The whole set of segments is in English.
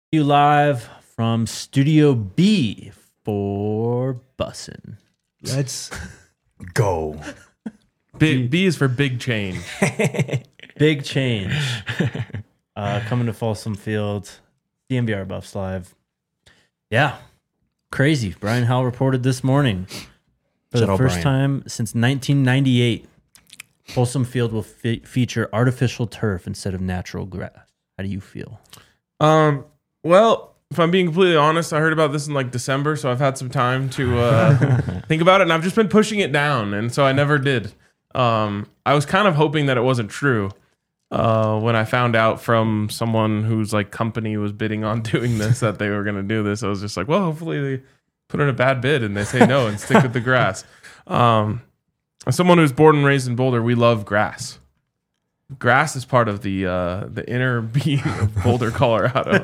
You live from Studio B for Bussin'. Let's go. B is for big change. Big change. Coming to Folsom Field, DNVR Buffs Live. Yeah, crazy. Brian Howell reported this morning for the first time since 1998, Folsom Field will feature artificial turf instead of natural grass. How do you feel? Well, if I'm being completely honest, I heard about this in like December, so I've had some time to think about it, and I've just been pushing it down, and so I never did. I was kind of hoping that it wasn't true when I found out from someone whose like company was bidding on doing this that they were going to do this. I was just like, well, hopefully they put in a bad bid and they say no and stick with the grass. As someone who's born and raised in Boulder, we love grass. Grass is part of the inner being of Boulder, Colorado.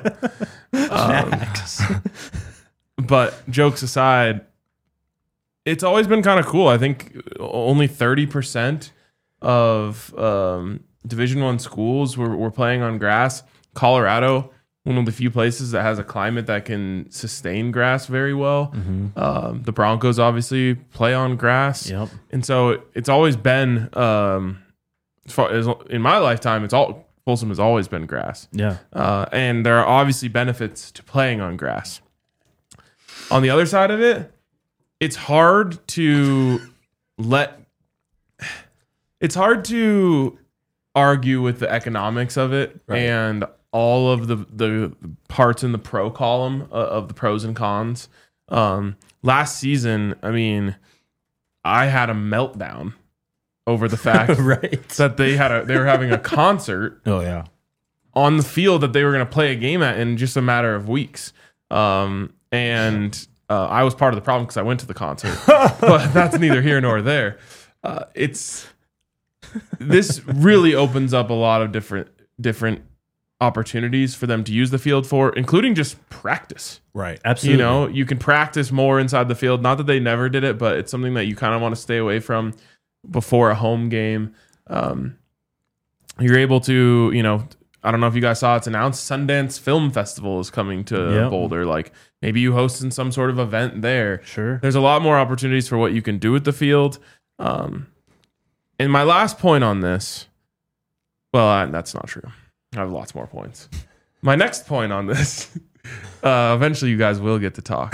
But jokes aside, it's always been kind of cool. I think only 30% of Division I schools were playing on grass. Colorado, one of the few places that has a climate that can sustain grass very well. Mm-hmm. The Broncos obviously play on grass. Yep. And so it's always been... as far as in my lifetime, Folsom has always been grass. Yeah. And there are obviously benefits to playing on grass. On the other side of it, it's hard to argue with the economics of it, right, and all of the parts in the pro column of the pros and cons. Last season, I mean, I had a meltdown over the fact right, that they were having a concert on the field that they were going to play a game at in just a matter of weeks. And I was part of the problem because I went to the concert, but that's neither here nor there. This really opens up a lot of different opportunities for them to use the field for, including just practice. Right. Absolutely. You can practice more inside the field. Not that they never did it, but it's something that you kind of want to stay away from before a home game. You're able to, I don't know if you guys saw, it's announced Sundance Film Festival is coming to Boulder. Like maybe you host in some sort of event there. Sure. There's a lot more opportunities for what you can do with the field. And my last point on this, well, that's not true. I have lots more points. My next point on this, eventually you guys will get to talk.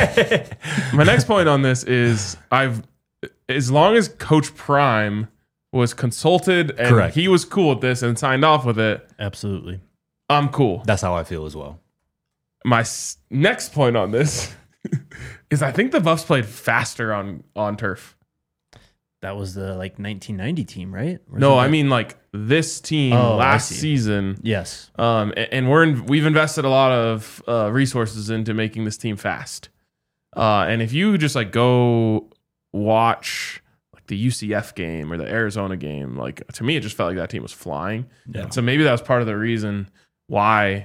My next point on this is as long as Coach Prime was consulted and Correct, he was cool with this and signed off with it, absolutely, I'm cool. That's how I feel as well. My next point on this is I think the Buffs played faster on turf. That was the 1990 team, right? No, I mean like this team last season. Yes. And we've invested a lot of resources into making this team fast. And if you just go watch like the UCF game or the Arizona game, like to me it just felt like that team was flying. Yeah. So maybe that was part of the reason why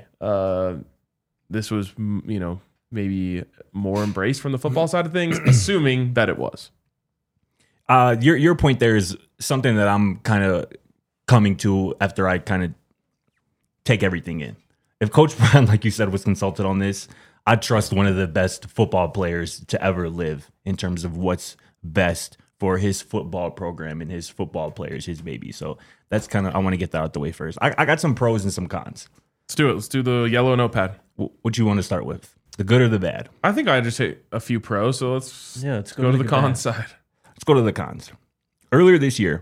this was maybe more embraced from the football side of things, assuming that it was. Your point there is something that I'm kind of coming to after I kind of take everything in. If Coach Brown, like you said, was consulted on this, I trust one of the best football players to ever live in terms of what's best for his football program and his football players, his baby. So that's kind of, I want to get that out the way first. I got some pros and some cons. Let's do it. Let's do the yellow notepad. What you want to start with? The good or the bad? I think I just hit a few pros, so let's go to the cons side. Let's go to the cons. Earlier this year,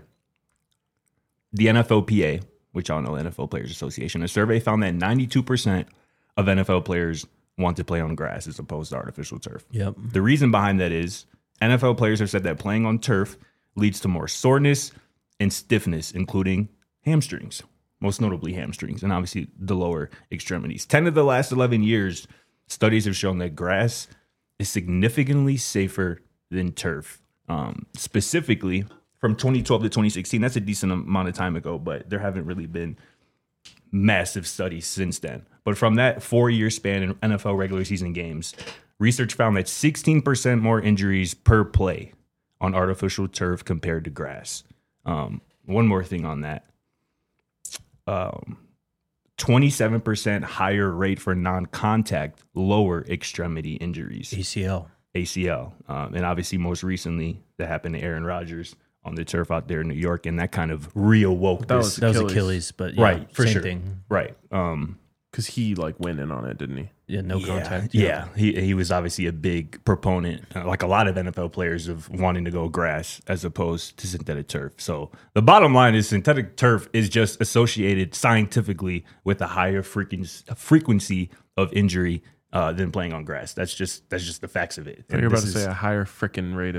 the NFLPA, which y'all know, NFL Players Association, a survey found that 92% of NFL players want to play on grass as opposed to artificial turf. Yep. The reason behind that is NFL players have said that playing on turf leads to more soreness and stiffness, including hamstrings, most notably hamstrings, and obviously the lower extremities. 10 of the last 11 years, studies have shown that grass is significantly safer than turf. Specifically from 2012 to 2016, that's a decent amount of time ago, but there haven't really been massive studies since then. But from that 4-year span in NFL regular season games, research found that 16% more injuries per play on artificial turf compared to grass. One more thing on that. 27% higher rate for non-contact lower extremity injuries, ACL. And obviously most recently that happened to Aaron Rodgers on the turf out there in New York, and that kind of reawoke That this. was That was Achilles, but yeah, Right, for same sure. thing. Right. Because he like went in on it, didn't he? Yeah, no contact. Yeah, he was obviously a big proponent, like a lot of NFL players, of wanting to go grass as opposed to synthetic turf. So the bottom line is synthetic turf is just associated scientifically with a higher frequency of injury than playing on grass. That's just the facts of it. So you're about to say a higher freaking rate of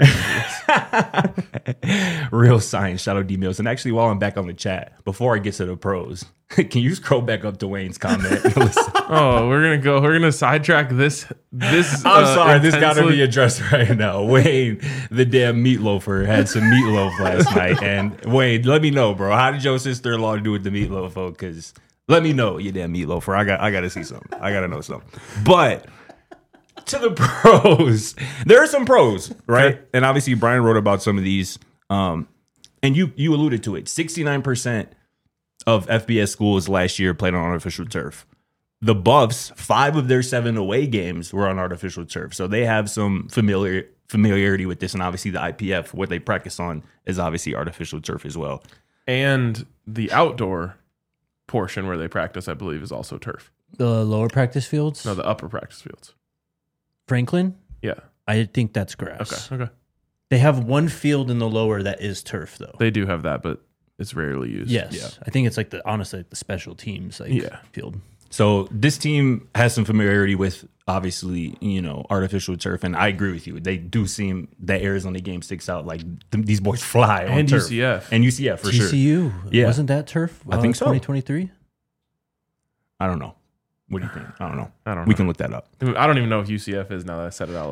injuries. Real science. Shout out D Mills. And actually, while I'm back on the chat, before I get to the pros, can you scroll back up to Wayne's comment? Oh, we're gonna sidetrack this. I'm sorry, this got to be addressed right now. Wayne, the damn meatloafer, had some meatloaf last night, and Wayne, let me know, bro. How did your sister-in-law do with the meatloaf? Because let me know, you damn meatloafer. I got to see something. I got to know something. But to the pros, there are some pros, right? And obviously, Brian wrote about some of these, and you alluded to it. 69% of FBS schools last year played on artificial turf. The Buffs, 5 of their 7 away games were on artificial turf. So they have some familiarity with this. And obviously the IPF, what they practice on is obviously artificial turf as well. And the outdoor portion where they practice, I believe, is also turf. The lower practice fields? No, the upper practice fields. Franklin? Yeah. I think that's grass. Okay. They have one field in the lower that is turf, though. They do have that, but it's rarely used. Yes. Yeah. I think it's like honestly, the special teams field. So this team has some familiarity with, obviously, artificial turf. And I agree with you. They do seem that Arizona game sticks out. Like these boys fly on And turf. UCF. And UCF for sure. TCU. Yeah. Wasn't that turf? I think so. 2023? I don't know. What do you think? I don't know. know. We can look that up. I don't even know if UCF is now that I said it out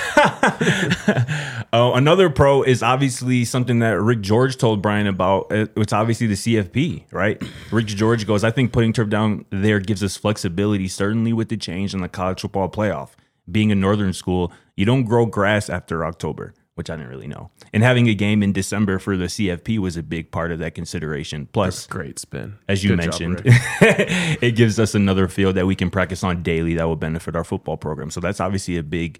loud. Another pro is obviously something that Rick George told Brian about. It's obviously the CFP, right? Rick George goes, I think putting turf down there gives us flexibility, certainly with the change in the college football playoff. Being a northern school, you don't grow grass after October, which I didn't really know. And having a game in December for the CFP was a big part of that consideration. Plus, Great spin. as you Good mentioned, job, Rick. it gives us another field that we can practice on daily that will benefit our football program. So that's obviously a big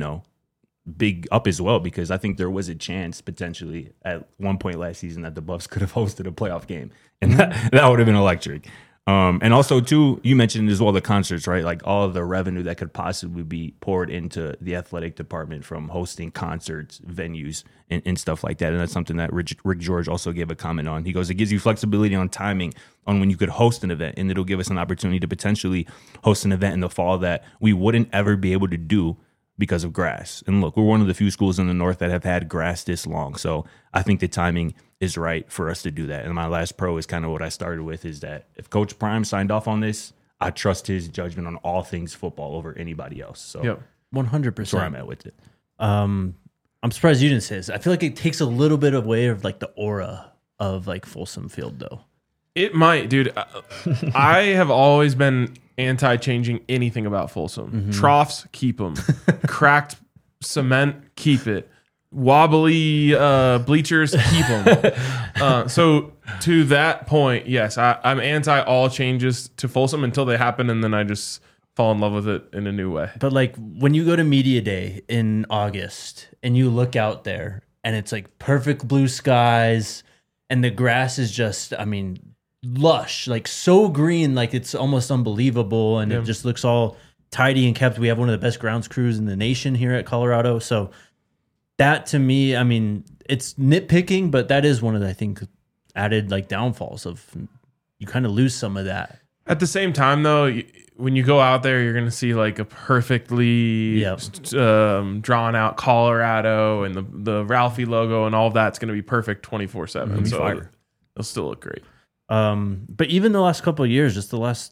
up as well, because I think there was a chance potentially at one point last season that the Buffs could have hosted a playoff game, and that would have been electric. And also, too, you mentioned as well the concerts, right? Like all of the revenue that could possibly be poured into the athletic department from hosting concerts, venues, and stuff like that. And that's something that Rick George also gave a comment on. He goes, it gives you flexibility on timing on when you could host an event, and it'll give us an opportunity to potentially host an event in the fall that we wouldn't ever be able to do because of grass. And look, we're one of the few schools in the North that have had grass this long. So I think the timing is right for us to do that. And my last pro is kind of what I started with, is that if Coach Prime signed off on this, I trust his judgment on all things football over anybody else. So Yep. 100%. that's where I'm at with it. I'm surprised you didn't say this. I feel like it takes a little bit away of like the aura of like Folsom Field, though. It might, dude. I have always been anti-changing anything about Folsom. Troughs, keep them. Cracked cement, keep it. Wobbly bleachers, keep them. So to that point, yes, I'm anti all changes to Folsom until they happen, and then I just fall in love with it in a new way. But like when you go to Media Day in August and you look out there and it's like perfect blue skies and the grass is just, lush, like so green, like it's almost unbelievable, and it just looks all tidy and kept. We have one of the best grounds crews in the nation here at Colorado. So that to me, it's nitpicking, but that is one of the, I think, added like downfalls of you kind of lose some of that. At the same time, though, when you go out there, you're going to see like a perfectly drawn out Colorado, and the Ralphie logo and all of that's going to be perfect 24/7. So it'll still look great. But even the last couple of years, just the last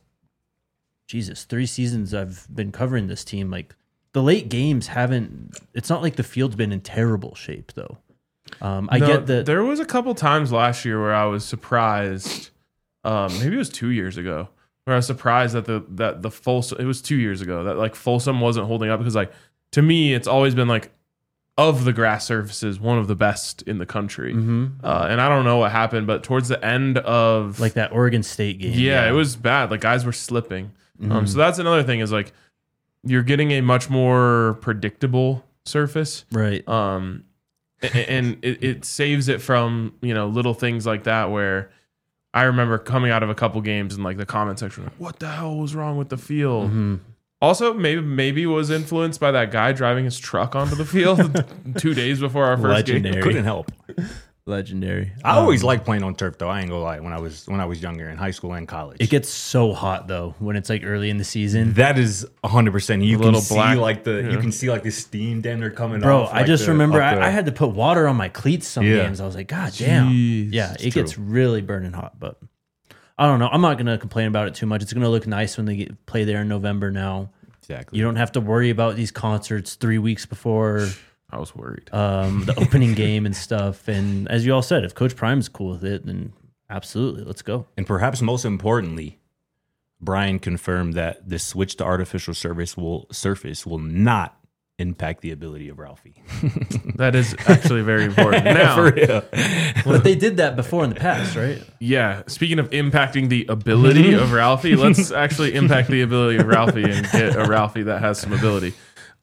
3 seasons I've been covering this team, like the late games it's not like the field's been in terrible shape though. I get that there was a couple times last year where I was surprised. Maybe it was 2 years ago where I was surprised that the Folsom, it was 2 years ago that like Folsom wasn't holding up, because like to me, it's always been like of the grass surfaces, one of the best in the country. And I don't know what happened, but towards the end of Like that Oregon State game. it was bad. Like guys were slipping. So that's another thing is like you're getting a much more predictable surface. Right. And it saves it from, little things like that where I remember coming out of a couple games and like the comment section, like, what the hell was wrong with the field? Also, maybe was influenced by that guy driving his truck onto the field 2 days before our first Legendary. game. Couldn't help. Legendary. I always liked playing on turf, though. I ain't gonna lie. When I was younger in high school and college, It gets so hot though when it's like early in the season. that is 100%. You can little see black- like you can see like the steam dender coming Bro, off. I like, just the- remember up the- I had to put water on my cleats some Yeah. games. I was like, God damn. Jeez. Yeah, it true. gets really burning hot, but I don't know. I'm not going to complain about it too much. It's going to look nice when they play there in November now. exactly. You don't have to worry about these concerts 3 weeks before I was worried. the opening game and stuff. And as you all said, if Coach Prime's cool with it, then absolutely, let's go. And perhaps most importantly, Brian confirmed that the switch to artificial surface will not impact the ability of Ralphie. That is actually very important. Now, For real. But they did that before in the past, right? yeah, speaking of impacting the ability of Ralphie, let's actually impact the ability of Ralphie and get a Ralphie that has some ability.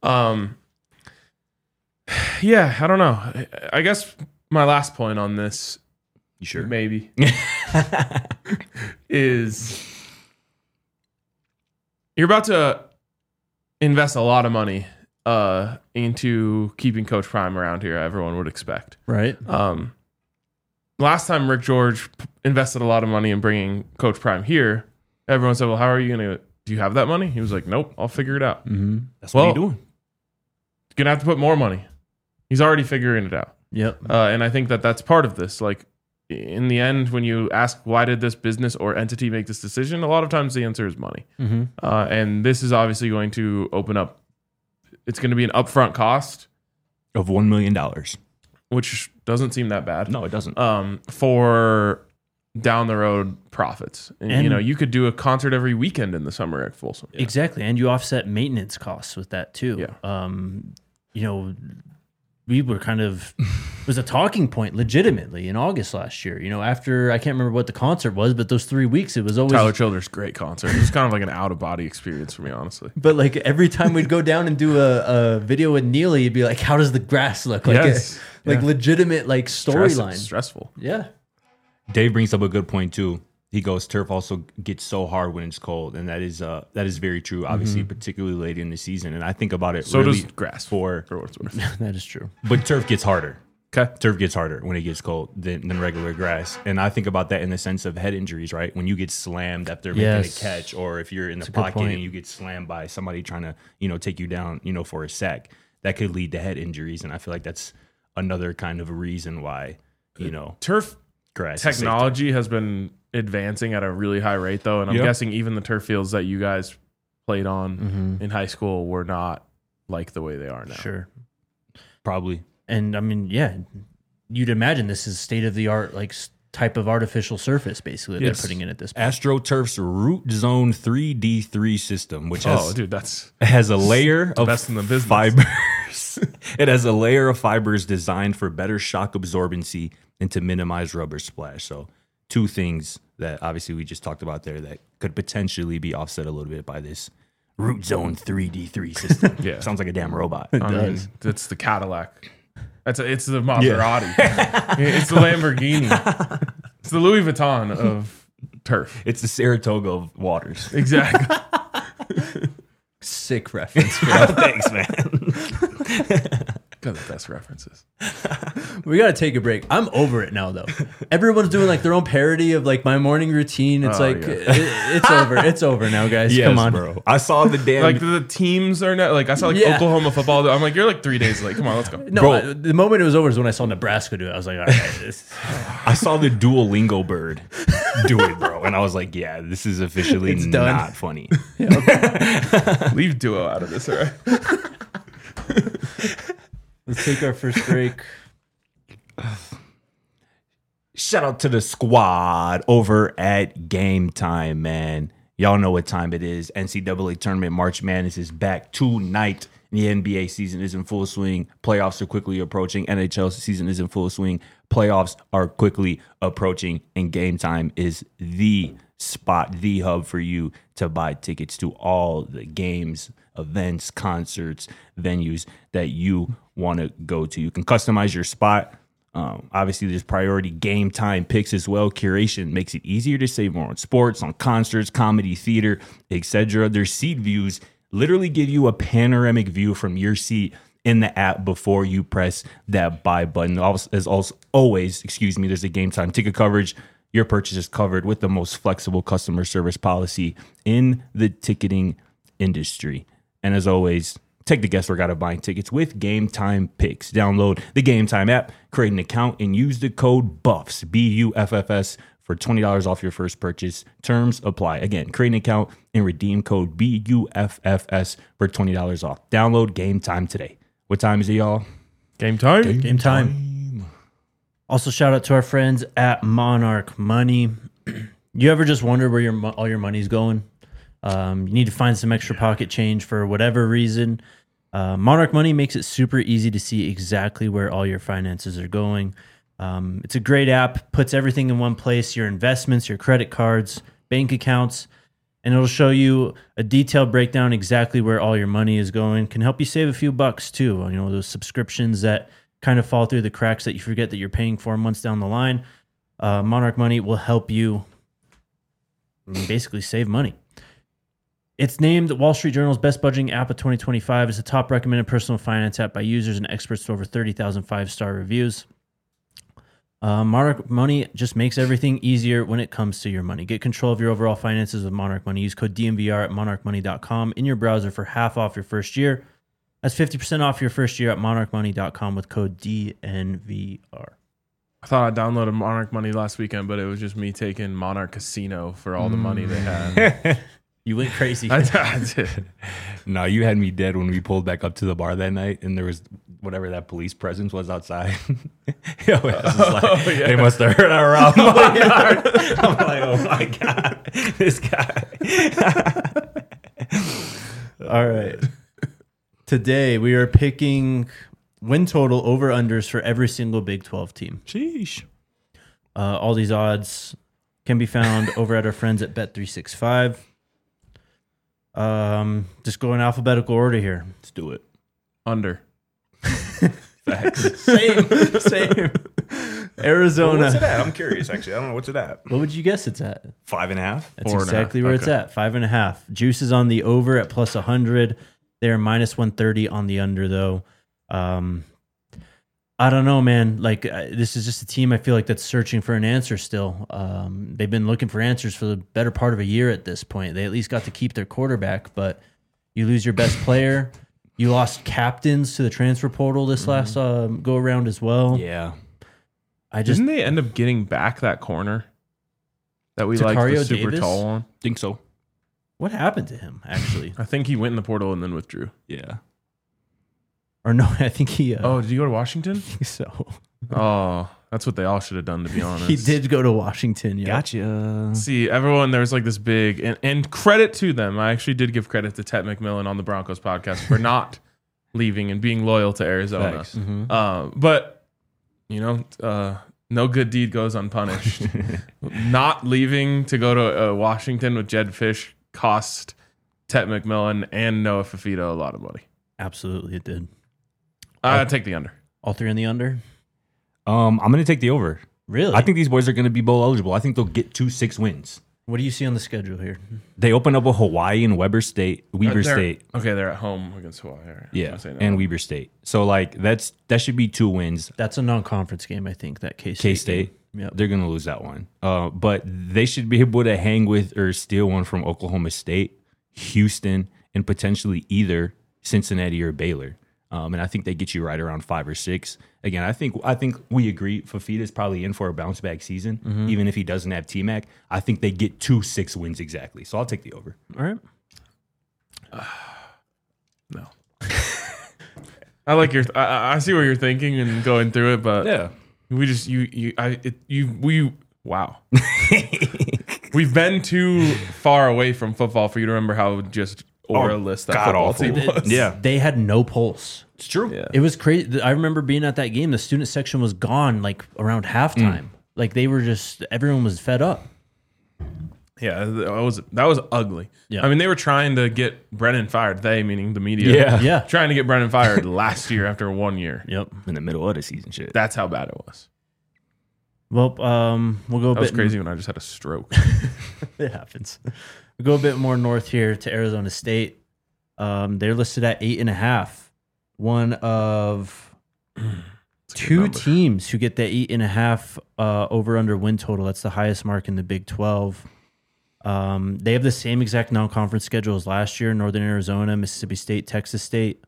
Yeah, I don't know. I guess my last point on this, You sure? maybe, is you're about to invest a lot of money into keeping Coach Prime around here, everyone would expect. Right. Last time Rick George invested a lot of money in bringing Coach Prime here, everyone said, well, how are you going to, do you have that money? He was like, nope, I'll figure it out. That's what Well- you're doing. You're going to have to put more money. He's already figuring it out. Yep. And I think that that's part of this. Like, in the end, when you ask, why did this business or entity make this decision? A lot of times the answer is money. And this is obviously going to open up, it's going to be an upfront cost, Of $1 million. which doesn't seem that bad. No, it doesn't. For down the road profits. And, And- you could do a concert every weekend in the summer at Folsom. Exactly. And you offset maintenance costs with that too. Yeah. We were kind of, it was a talking point legitimately in August last year. After, I can't remember what the concert was, but those 3 weeks, it was always, Tyler Childers, great concert. It was kind of like an out of body experience for me, honestly. but like every time we'd go down and do a video with Neely, you'd be like, how does the grass look? Like, Yes. like Yeah. legitimate like storyline. Stressful. Yeah. Dave brings up a good point too. He goes, turf also gets so hard when it's cold, and that is very true. Obviously, particularly late in the season, and I think about it. So really does grass for what it's worth. That is true. but turf gets harder. Okay. Turf gets harder when it gets cold than regular grass, and I think about that in the sense of head injuries. Right, when you get slammed after making Yes. a catch, or if you're in the a good pocket point. and you get slammed by somebody trying to take you down for a sack, that could lead to head injuries, and I feel like that's another kind of a reason why Turf grass is safe. technology has been advancing at a really high rate, though. And I'm Yep. guessing even the turf fields that you guys played on in high school were not like the way they are now. Sure. Probably. And I mean, yeah, you'd imagine this is state of the art, like type of artificial surface basically that Yes. they're putting in at this point. AstroTurf's Root Zone 3D3 system, which Oh, dude, that's has a layer of best in the business. fibers. It has a layer of fibers designed for better shock absorbency and to minimize rubber splash. So, two things that obviously we just talked about there that could potentially be offset a little bit by this Root Zone 3D3 system. Yeah. Sounds like a damn robot. I mean, it's the Cadillac. It's the Maserati. It's the Lamborghini. It's the Louis Vuitton of turf. It's the Saratoga of waters. Exactly. Sick reference. Thanks, man. Got the best references. We got to take a break. I'm over it now, though. Everyone's doing like their own parody of like my morning routine. It's Oh, like yeah. it's over. It's over now, guys. Yes, Come on, bro. I saw the damn. Like the teams are not like I saw like Yeah. Oklahoma football. I'm like, you're like 3 days late. Come on, let's go. No, Bro. the moment it was over is when I saw Nebraska do it. I was like, all right, this, I saw the Duolingo bird do it, bro, and I was like, "Yeah, this is officially It's done. not funny." Leave duo out of this, all right? let's take our first break. Shout out to the squad over at Game Time, man. Y'all know what time it is. NCAA Tournament March Madness is back tonight The NBA season is in full swing. Playoffs are quickly approaching. NHL season is in full swing. Playoffs are quickly approaching. And Game Time is the spot, the hub for you to buy tickets to all the games, events, concerts, venues that you want to go to. You can customize your spot. Obviously, there's priority Game Time picks as well. Curation makes it easier to save more on sports, on concerts, comedy, theater, etc. Their seat views literally give you a panoramic view from your seat in the app before you press that buy button. As always, there's a Game Time ticket coverage. Your purchase is covered with the most flexible customer service policy in the ticketing industry. And as always, take the guesswork out of buying tickets with Game Time Picks. Download the Game Time app, create an account, and use the code BUFFS, BUFFS, for $20 off your first purchase. Terms apply. Again, create an account and redeem code BUFFS for $20 off. Download Game Time today. What time is it, y'all? Game time. Game time. Also, shout out to our friends at Monarch Money. You ever just wonder where all your money's going? You need to find some extra pocket change for whatever reason. Monarch Money makes it super easy to see exactly where all your finances are going. It's a great app, puts everything in one place, your investments, your credit cards, bank accounts, and it'll show you a detailed breakdown exactly where all your money is going. Can help you save a few bucks too. You know, those subscriptions that kind of fall through the cracks that you forget that you're paying for months down the line. Monarch Money will help you basically save money. It's named Wall Street Journal's Best Budgeting App of 2025. It's a top recommended personal finance app by users and experts with over 30,000 five-star reviews. Monarch Money just makes everything easier when it comes to your money. Get control of your overall finances with Monarch Money. Use code DMVR at monarchmoney.com in your browser for half off your first year. That's 50% off your first year at monarchmoney.com with code DNVR. I thought I downloaded Monarch Money last weekend, but it was just me taking Monarch Casino for all the money they had. You went crazy. I did. No, you had me dead when we pulled back up to the bar that night, and there was whatever that police presence was outside. Yo, they must have heard our round. I'm like, oh my God, this guy. All right. Today we are picking win total over-unders for every single Big 12 team. Sheesh. All these odds can be found over at our friends at Bet365. Just go in alphabetical order here. Let's do it. Under. Facts. Same. Arizona. What's it at? I'm curious, actually. I don't know. What's it at? What would you guess it's at? 5.5? That's 4.5. exactly where it's Okay. at. 5.5. Juice is on the over at plus 100. They're minus 130 on the under, though. I don't know, man. Like, this is just a team I feel like that's searching for an answer still. They've been looking for answers for the better part of a year at this point. They at least got to keep their quarterback, but you lose your best player. You lost captains to the transfer portal this last go around as well. Yeah. Didn't they end up getting back that corner that we like Takario the super Davis? tall one? Think so. What happened to him, actually? I think he went in the portal and then withdrew. Yeah. Or no, I think he... Oh, did he go to Washington? I think so. Oh, that's what they all should have done, to be honest. He did go to Washington, yeah. Gotcha. See, everyone, there's like this big, and credit to them. I actually did give credit to Ted McMillan on the Broncos podcast for not leaving and being loyal to Arizona. Facts. But, you know, no good deed goes unpunished. Not leaving to go to Washington with Jed Fish cost Ted McMillan and Noah Fafita a lot of money. Absolutely, it did. Take the under. All three on the under? I'm going to take the over. Really? I think these boys are going to be bowl eligible. I think they'll get 2-6 wins. What do you see on the schedule here? They open up with Hawaii and Weber State, Weber State. Okay, they're at home against Hawaii. Right? Yeah, and Weber State. So, like, that should be 2 wins. That's a non-conference game, I think, that K-State. K-State, Yep. they're going to lose that one. But they should be able to hang with or steal one from Oklahoma State, Houston, and potentially either Cincinnati or Baylor. And I think they get you right around 5 or 6. Again, I think we agree Fafita's probably in for a bounce back season, even if he doesn't have T-Mac. I think they get 2-6 wins exactly. So I'll take the over. All right. No. I like your. I see where you're thinking and going through it, but Yeah. we just wow. We've been too far away from football for you to remember how just or a list that football god-awful. team was. Yeah. They had no pulse. It's true. Yeah. It was crazy. I remember being at that game. The student section was gone like around halftime. Like they were just, everyone was fed up. Yeah, that was ugly. Yeah. I mean, they were trying to get Brennan fired. They, meaning the media. Yeah. Trying to get Brennan fired last year after 1 year. Yep. In the middle of the season shit. That's how bad it was. Well, we'll go a That was bit. crazy when I just had a stroke. It happens. We'll go a bit more north here to Arizona State. They're listed at 8.5. One of two number. teams who get that 8.5 over under win total. That's the highest mark in the Big 12. They have the same exact non-conference schedule as last year: Northern Arizona, Mississippi State, Texas State.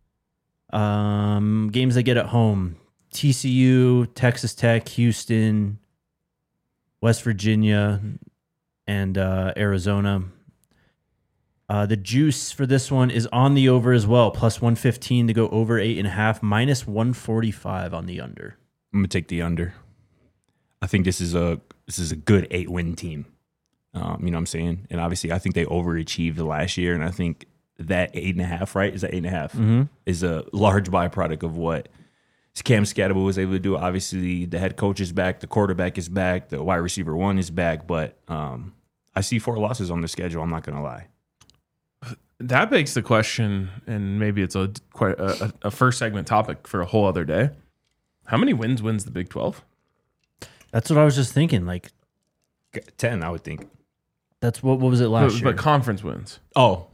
Games they get at home: TCU, Texas Tech, Houston, West Virginia, and Arizona. The juice for this one is on the over as well, plus 115 to go over 8.5, minus 145 on the under. I'm gonna take the under. I think this is a good 8-win team. You know what I'm saying? And obviously, I think they overachieved the last year, and I think that 8.5, right? Is that 8.5? Is a large byproduct of what Cam Scatterable was able to do. Obviously, the head coach is back, the quarterback is back, the wide receiver 1 is back, but I see 4 losses on the schedule. I'm not gonna lie. That begs the question, and maybe it's quite a first segment topic for a whole other day. How many wins the Big 12? That's what I was just thinking. Like, 10, I would think. that's what was it last year? But conference wins. Oh,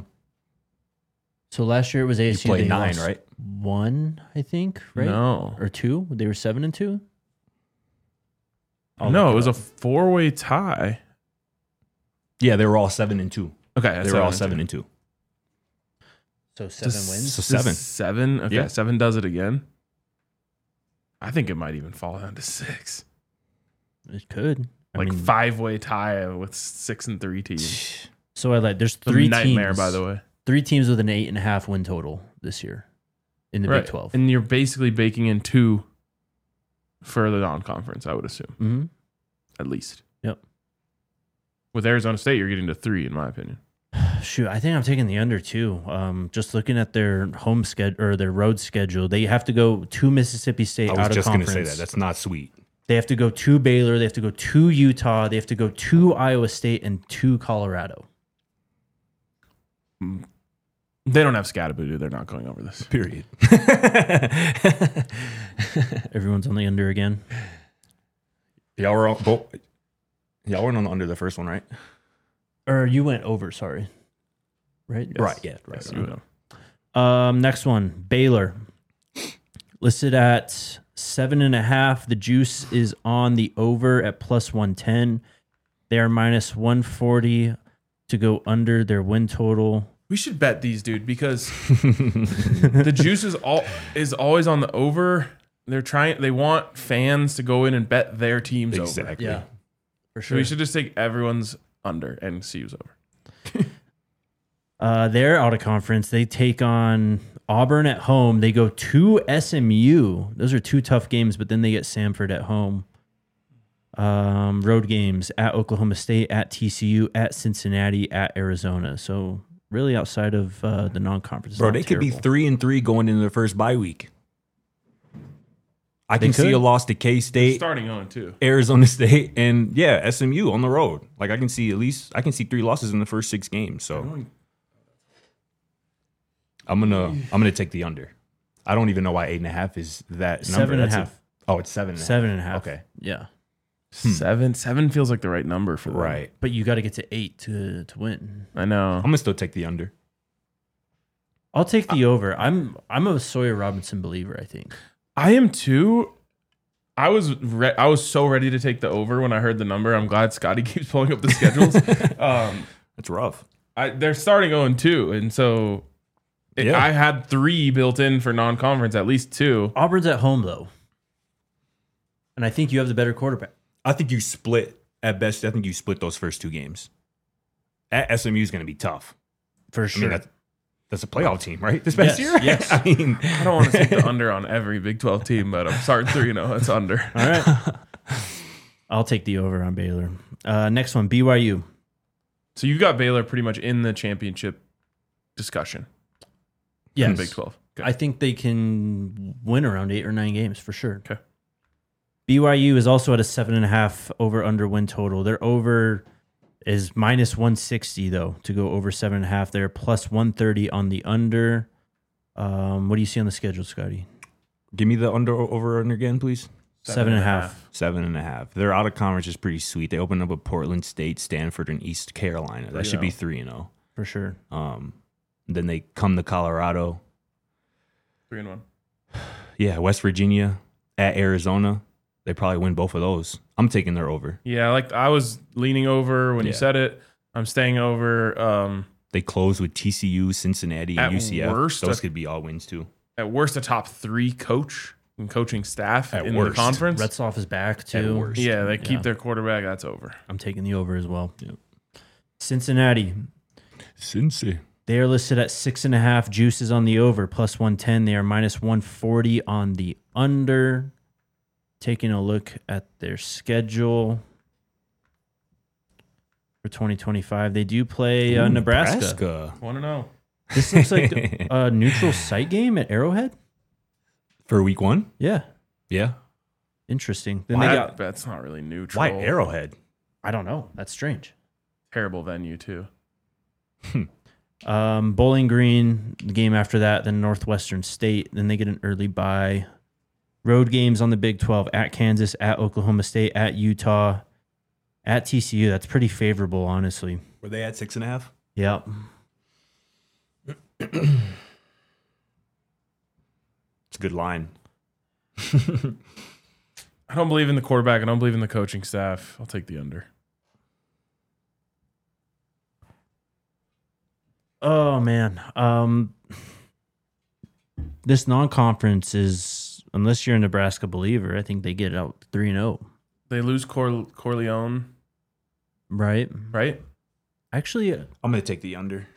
So last year it was ASU. you played They 9, lost right? 1, I think, right? No. Or 2? They were 7-2? No, it was a 4-way tie. Yeah, they were all 7-2. Okay. They were all 7-2. So 7 wins? So 7. 7? Okay, Yeah. 7 does it again. I think it might even fall down to 6. It could. I Like mean, 5-way tie with 6-3 teams. So there's It's a 3 nightmare, teams. by the way. 3 teams with an 8.5 win total this year in the Big 12. And you're basically baking in 2 for the non-conference, I would assume, Mm-hmm. at least. Yep. With Arizona State, you're getting to 3, in my opinion. Shoot, I think I'm taking the under too. Just looking at their home schedule or their road schedule, they have to go to Mississippi State I out was of just going to conference. say that. That's not sweet. They have to go to Baylor. They have to go to Utah. They have to go to Iowa State and to Colorado. They don't have Scatteraboo. They're not going over this. Period. Everyone's on the under again. Y'all were on on the under the first one, right? Or you went over, sorry. Right? Yes. Right, yeah. Yes, Right. you know. Next one, Baylor. Listed at 7.5. The juice is on the over at plus 110. They are minus 140 to go under their win total. We should bet these, dude, because the juice is always on the over. They want fans to go in and bet their teams over. Exactly. Yeah, for So sure. we should just take everyone's under and see who's over. They're out of conference. They take on Auburn at home. They go to SMU. Those are 2 tough games, but then they get Samford at home. Road games at Oklahoma State, at TCU, at Cincinnati, at Arizona. So really outside of the non-conference. it's Bro, not they could be terrible. 3-3 going into the first bye week. I They can see could. a loss to K-State, Starting on, too. Arizona State, and SMU on the road. Like I can see 3 losses in the first 6 games. So I'm gonna take the under. I don't even know why 8.5 is that number. 7.5. It's 7.5. 7.5. Okay. Yeah. 7 feels like the right number for them. Right. But you got to get to 8 to win. I know. I'm gonna still take the under. I'll take the over. I'm a Sawyer Robinson believer, I think. I am too. I was so ready to take the over when I heard the number. I'm glad Scotty keeps pulling up the schedules. That's rough. They're starting 0-2, and so Yeah. I had 3 built in for non-conference, at least 2. Auburn's at home, though. And I think you have the better quarterback. I think you split at best. I think you split those first 2 games. At SMU is going to be tough. For I sure. mean, that's a playoff team, right? This past Yes, year. yes. I mean, I don't want to take the under on every Big 12 team, but I'm starting 3-0. It's under. All right. I'll take the over on Baylor. Next one, BYU. So you got Baylor pretty much in the championship discussion Yes. in the Big 12. Okay. I think they can win around 8 or 9 games for sure. Okay. BYU is also at a 7.5 over/under win total. Their over is minus 160 though to go over 7.5. They're plus 130 on the under. What do you see on the schedule, Scotty? Give me the over again, please. 7.5. 7.5. Their out of conference is pretty sweet. They opened up with Portland State, Stanford, and East Carolina. That should be 3-0. For sure. Then they come to Colorado. 3-1. Yeah, West Virginia at Arizona. They probably win both of those. I'm taking their over. Yeah, like I was leaning over when you said it. I'm staying over. They close with TCU, Cincinnati, and At UCF. worst, Those could be all wins too. At worst, a top 3 coach and coaching staff At in worst. the conference. Retzloff is back At too. worst. Yeah, they keep Yeah. their quarterback. That's over. I'm taking the over as well. Yep. Cincinnati. Cincy. They are listed at 6.5. Juices on the over, plus 110. They are minus 140 on the under. Taking a look at their schedule for 2025, they do play Nebraska. 1-0. This looks like a neutral site game at Arrowhead. For week 1? Yeah, Yeah. interesting. Then Why? they got. That's not really neutral. Why Arrowhead? I don't know. That's strange. Terrible venue too. Bowling Green, the game after that, then Northwestern State. Then they get an early bye. Road games on the Big 12 at Kansas, at Oklahoma State, at Utah, at TCU. That's pretty favorable, honestly. Were they at 6.5? Yep. It's a good line. I don't believe in the quarterback. I don't believe in the coaching staff. I'll take the under. Oh, man. This non-conference is, unless you're a Nebraska believer, I think they get out 3-0. They lose Corleone, Right? right? Actually, I'm going to take the under.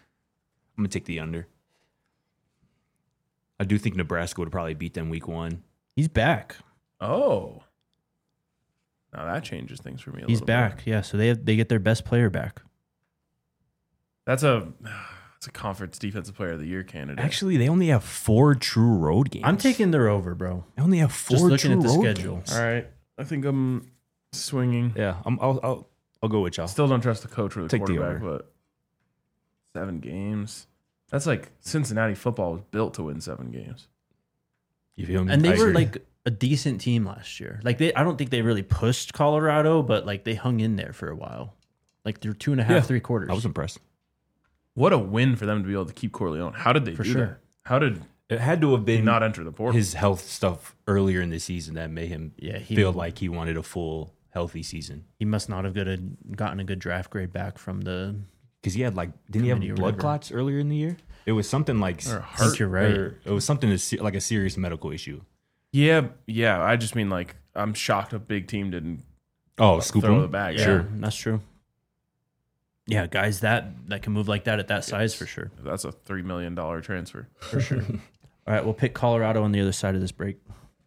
I do think Nebraska would probably beat them week 1. he's back. Oh. Now that changes things for me a He's little back. bit. Yeah, so they get their best player back. That's a conference defensive player of the year candidate. Actually, they only have 4 true road games. I'm taking their over, bro. They only have 4 Just looking true at the road schedule. games. All right. I think I'm swinging. Yeah, I'll go with y'all. Still don't trust the coach or the Take the quarterback, over. but 7 games. That's like Cincinnati football was built to win 7 games. You feel me? And they I were agree. like a decent team last year. Like I don't think they really pushed Colorado, but like they hung in there for a while. Like through 2.5, Yeah. 3 quarters. I was impressed. What a win for them to be able to keep Corleone. How did they For do sure. that? How did It had to have he been not enter the portal? his health stuff earlier in the season that made him He feel like he wanted a full healthy season. he must not have gotten a good draft grade back from the. Because he had didn't he Committee or have blood whatever. clots earlier in the year? It was something like Or a I heart. think you're right. it was something like a serious medical issue. Yeah. I just mean I'm shocked a big team didn't Oh, scoop throw him? the bag. Yeah, Sure. that's true. Yeah, guys that can move like that at that size for sure. That's a $3 million transfer. For sure. All right, we'll pick Colorado on the other side of this break.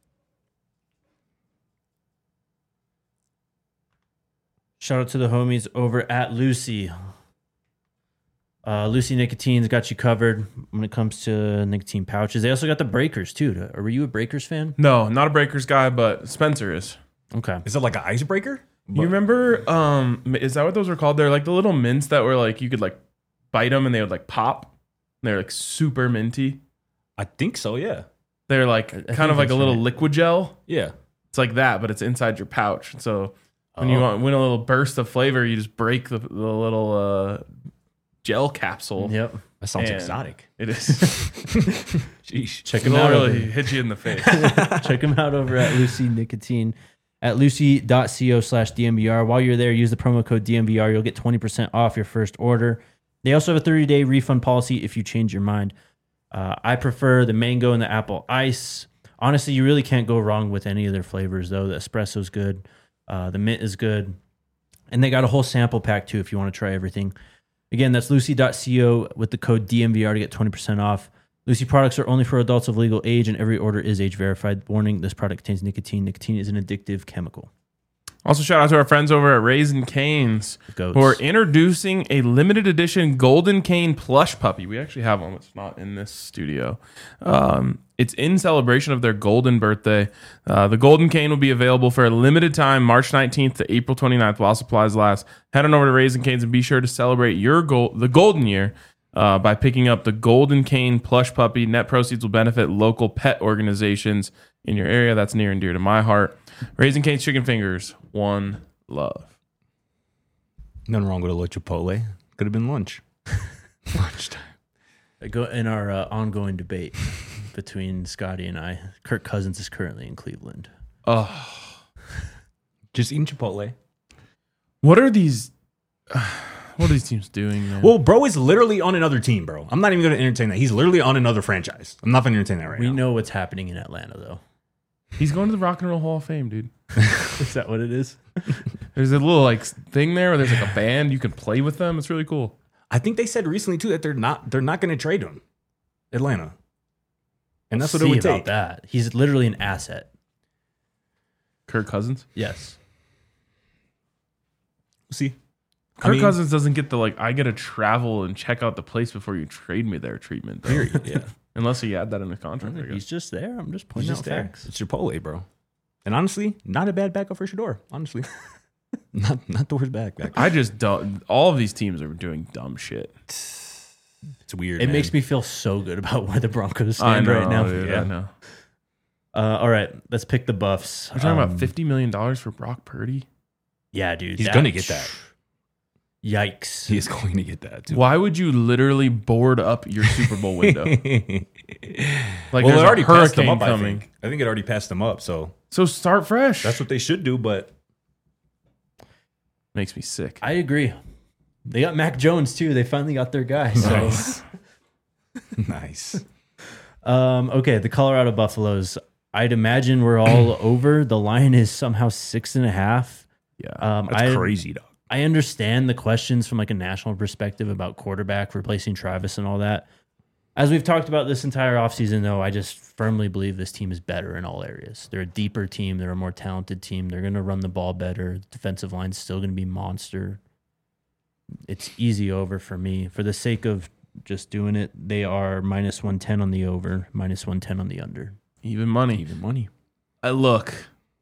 Shout out to the homies over at Lucy. Lucy Nicotine's got you covered when it comes to nicotine pouches. They also got the Breakers too. Were you a Breakers fan? No, not a Breakers guy, but Spencer is. Okay. Is it like an icebreaker? You remember? Is that what those were called? They're like the little mints that were like you could like bite them and they would like pop. They're like super minty. I think so, yeah. They're like I kind of think like a that's little right. liquid gel. Yeah. It's like that, but it's inside your pouch. So when Oh. you win a little burst of flavor, you just break the little gel capsule. Yep. That sounds And exotic. It is. Sheesh. Check It'll them out. really hit you in the face. Check them out over at Lucy Nicotine at lucy.co/DMVR. While you're there, use the promo code DMVR. You'll get 20% off your first order. They also have a 30-day refund policy if you change your mind. I prefer the mango and the apple ice. Honestly, you really can't go wrong with any of their flavors, though. The espresso's good. The mint is good. And they got a whole sample pack, too, if you want to try everything. Again, that's lucy.co with the code DMVR to get 20% off. Lucy products are only for adults of legal age, and every order is age verified. Warning, this product contains nicotine. Nicotine is an addictive chemical. Also, shout out to our friends over at Raising Canes Goats. who are introducing a limited edition Golden Cane plush puppy. We actually have one. It's not in this studio. It's in celebration of their golden birthday. The Golden Cane will be available for a limited time, March 19th to April 29th, while supplies last. Head on over to Raising Canes and be sure to celebrate the golden year by picking up the Golden Cane plush puppy. Net proceeds will benefit local pet organizations in your area. That's near and dear to my heart. Raising Cane's Chicken Fingers, one love. Nothing wrong with a little Chipotle. Could have been lunch. Lunchtime. Go in our ongoing debate between Scotty and I. Kirk Cousins is currently in Cleveland. Oh, Just eating Chipotle. what are these teams doing, man? Well, bro is literally on another team, bro. I'm not even going to entertain that. He's literally on another franchise. I'm not going to entertain that right We now. know what's happening in Atlanta, though. He's going to the Rock and Roll Hall of Fame, dude. Is that what it is? There's a little like thing there where there's like a band you can play with them. It's really cool. I think they said recently too that they're not going to trade him. Atlanta. And that's what it would about take. that. He's literally an asset. Kirk Cousins. Yes. See. Kirk Cousins doesn't get the I got to travel and check out the place before you trade me there treatment. Though. Period. Yeah. Unless he add that in the contract. I guess. He's just there. I'm just He's pointing just out there. facts. It's Chipotle, bro. And honestly, not a bad backup for Shador. Honestly. not the worst backup. I just don't. All of these teams are doing dumb shit. It's weird. It man. makes me feel so good about where the Broncos I stand know, right now. dude, Yeah. I know. All right, let's pick the Buffs. We're talking about $50 million for Brock Purdy. Yeah, dude. He's going to get that. Yikes. He is going to get that too. Why would you literally board up your Super Bowl window? Well, Like it there's already a passed them hurricane up. coming. I think it already passed them up. So So start fresh. that's what they should do. But Makes me sick. I agree. They got Mac Jones too. They finally got their guy. So. nice, nice. Okay, the Colorado Buffaloes. I'd imagine we're all over. The line is somehow 6.5. Yeah. That's crazy, dog. I understand the questions from like a national perspective about quarterback replacing Travis and all that. As we've talked about this entire offseason, though, I just firmly believe this team is better in all areas. They're a deeper team. They're a more talented team. They're going to run the ball better. The defensive line's still going to be monster. It's easy over for me. For the sake of just doing it, they are minus 110 on the over, minus 110 on the under. Even money. Even money. Look,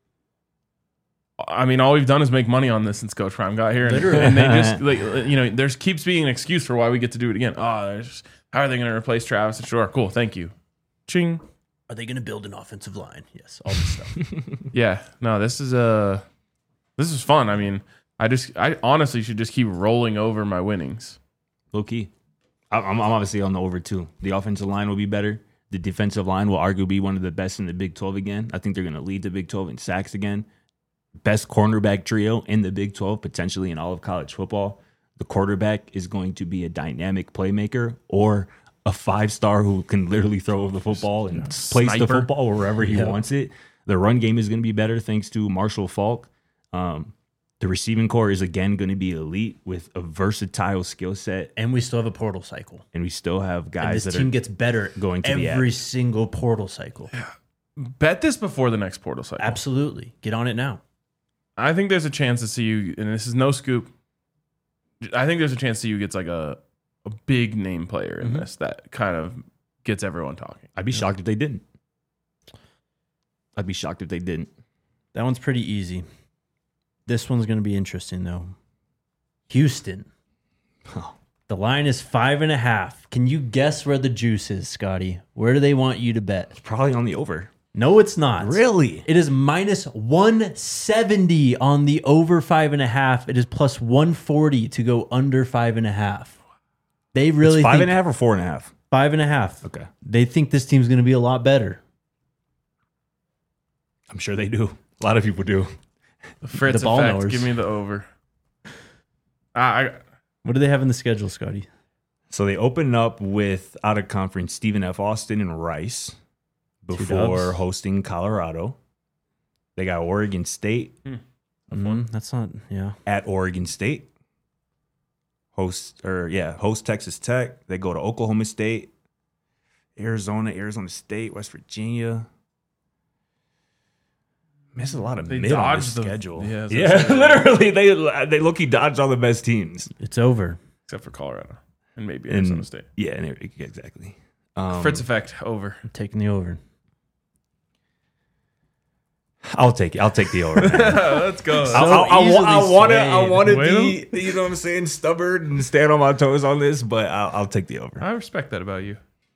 I mean, all we've done is make money on this since Coach Prime got here. Literally. And they just, there's keeps being an excuse for why we get to do it again. How are they going to replace Travis? Sure, cool, thank you. Ching. Are they going to build an offensive line? Yes, all this stuff. Yeah, no, this is fun. I mean, I honestly should just keep rolling over my winnings. Low key. I'm obviously on the over too. The offensive line will be better. The defensive line will arguably be one of the best in the Big 12 again. I think they're going to lead the Big 12 in sacks again. Best cornerback trio in the Big 12, potentially in all of college football. The quarterback is going to be a dynamic playmaker or a 5-star who can literally throw the football and place the Sniper. football wherever he wants it. The run game is going to be better thanks to Marshall Faulk. The receiving core is again going to be elite with a versatile skill set. And we still have a portal cycle. And we still have And guys this that team are gets better going to be every single portal cycle. Bet this before the next portal cycle. Absolutely. Get on it now. I think there's a chance to see you, and this is no scoop. I think there's a chance that you gets like a big name player in this that kind of gets everyone talking. I'd be shocked if they didn't. I'd be shocked if they didn't. That one's pretty easy. This one's going to be interesting, though. Houston. Oh. The line is 5.5. Can you guess where the juice is, Scotty? Where do they want you to bet? Probably on the over. No, it's not. Really? It is minus 170 on the over 5.5. It is plus 140 to go under 5.5. They really It's think 5.5 or 4.5? 5.5. Okay. They think this team's going to be a lot better. I'm sure they do. A lot of people do. The Fritz The ball effect. knowers. Give me the over. What do they have in the schedule, Scotty? So they open up with out of conference Stephen F. Austin and Rice before dubs. hosting Colorado. They got Oregon State That's not, yeah. at Oregon State. Host Texas Tech. They go to Oklahoma State, Arizona State, West Virginia. Misses a lot of They mid on dodged the the schedule. Yeah, Yeah, literally, they low-key dodged all the best teams. It's over. except for Colorado and maybe Arizona State. Yeah, exactly. Fritz effect over. I'm taking the over. I'll take it. I'll take the over. Man. Let's go. I want to Wait. be, you know what I'm saying, stubborn and stand on my toes on this, but I'll take the over. I respect that about you.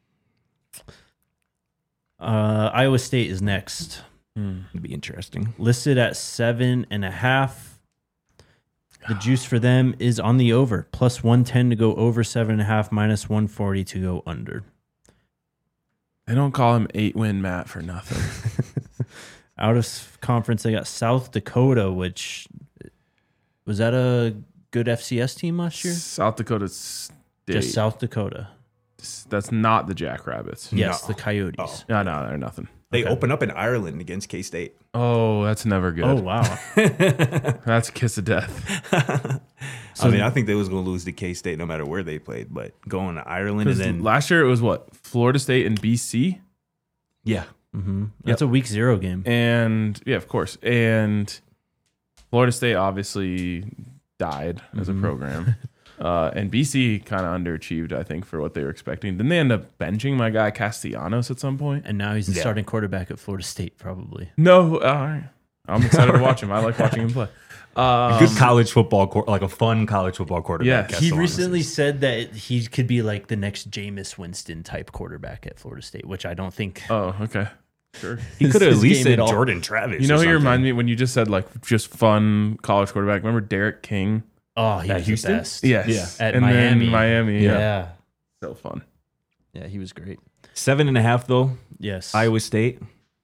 Iowa State is next. It'd be interesting. Listed at 7.5. The juice for them is on the over. Plus 110 to go over 7.5, minus 140 to go under. They don't call him 8-win Matt for nothing. Out of conference, they got South Dakota, which was that a good FCS team last year? South Dakota State. Just South Dakota. That's not the Jackrabbits. Yes, No. the Coyotes. No, they're nothing. They Okay. open up in Ireland against K-State. Oh, that's never good. Oh, wow. That's a kiss of death. I mean, I think they was going to lose to K-State no matter where they played, but going to Ireland and then Last year it was what? Florida State and BC? yeah, That's a week 0 game. And yeah, of course. And Florida State obviously died as a program. And BC kind of underachieved, I think, for what they were expecting. Didn't they end up benching my guy Castellanos at some point? And now he's the Yeah. starting quarterback at Florida State, probably. No. All right. I'm excited to watch him. I like watching him play. good college football, like a fun college football quarterback. Yeah, He Castellanos recently is. said that he could be like the next Jameis Winston type quarterback at Florida State, which I don't think. Oh, okay. Sure. He could have at his least game said at all. Jordan Travis. You know or who you something. remind me when you just said like just fun college quarterback? Remember Derek King? Oh, he At was Houston? the best. Yes. Yeah. At and Miami. Then Miami. Yeah. Yeah. So fun. Yeah, he was great. 7.5 though. Yes. Iowa State.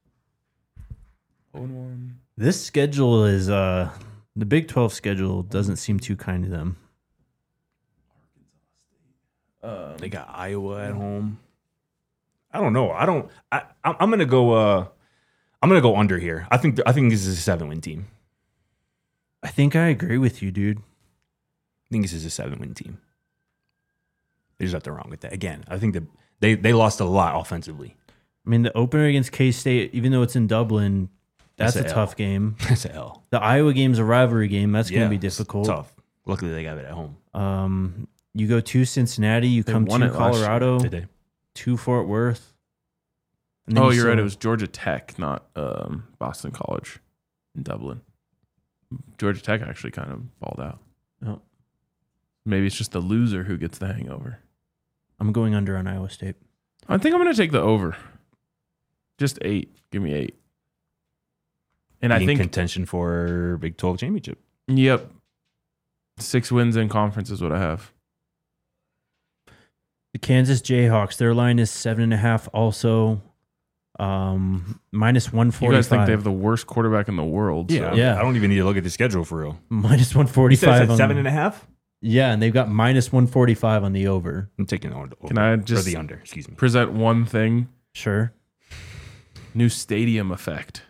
0-1. This schedule is the Big 12 schedule doesn't seem too kind to them. They got Iowa at home. I don't know. I'm gonna go. I'm gonna go under here. I think this is a 7-win team. I think I agree with you, dude. I think this is a 7-win team. There's nothing wrong with that. Again, I think that they lost a lot offensively. I mean, the opener against K-State, even though it's in Dublin, that's a That's a tough game. That's a L. The Iowa game's a rivalry game. That's going to be it's difficult. Tough. Luckily, they got it at home. You go to Cincinnati, you come won to it last year, Colorado, Did they? to Fort Worth. And then Oh, you you're right. still- It was Georgia Tech, not Boston College in Dublin. Georgia Tech actually kind of balled out. Oh, Maybe it's just the loser who gets the hangover. I'm going under on Iowa State. I think I'm going to take the over. Just 8. Give me 8. And I In think, contention for Big 12 championship. yep, 6 wins in conference is what I have. The Kansas Jayhawks, their line is 7.5 also. Minus You 145. guys think they have the worst quarterback in the world. Yeah, So. Yeah. I don't even need to look at the schedule for real. minus You 145. said on- 7.5. Yeah, and they've got minus 145 on the over. I'm taking the over. Can I or just the under? Excuse me. present one thing? Sure. New stadium effect.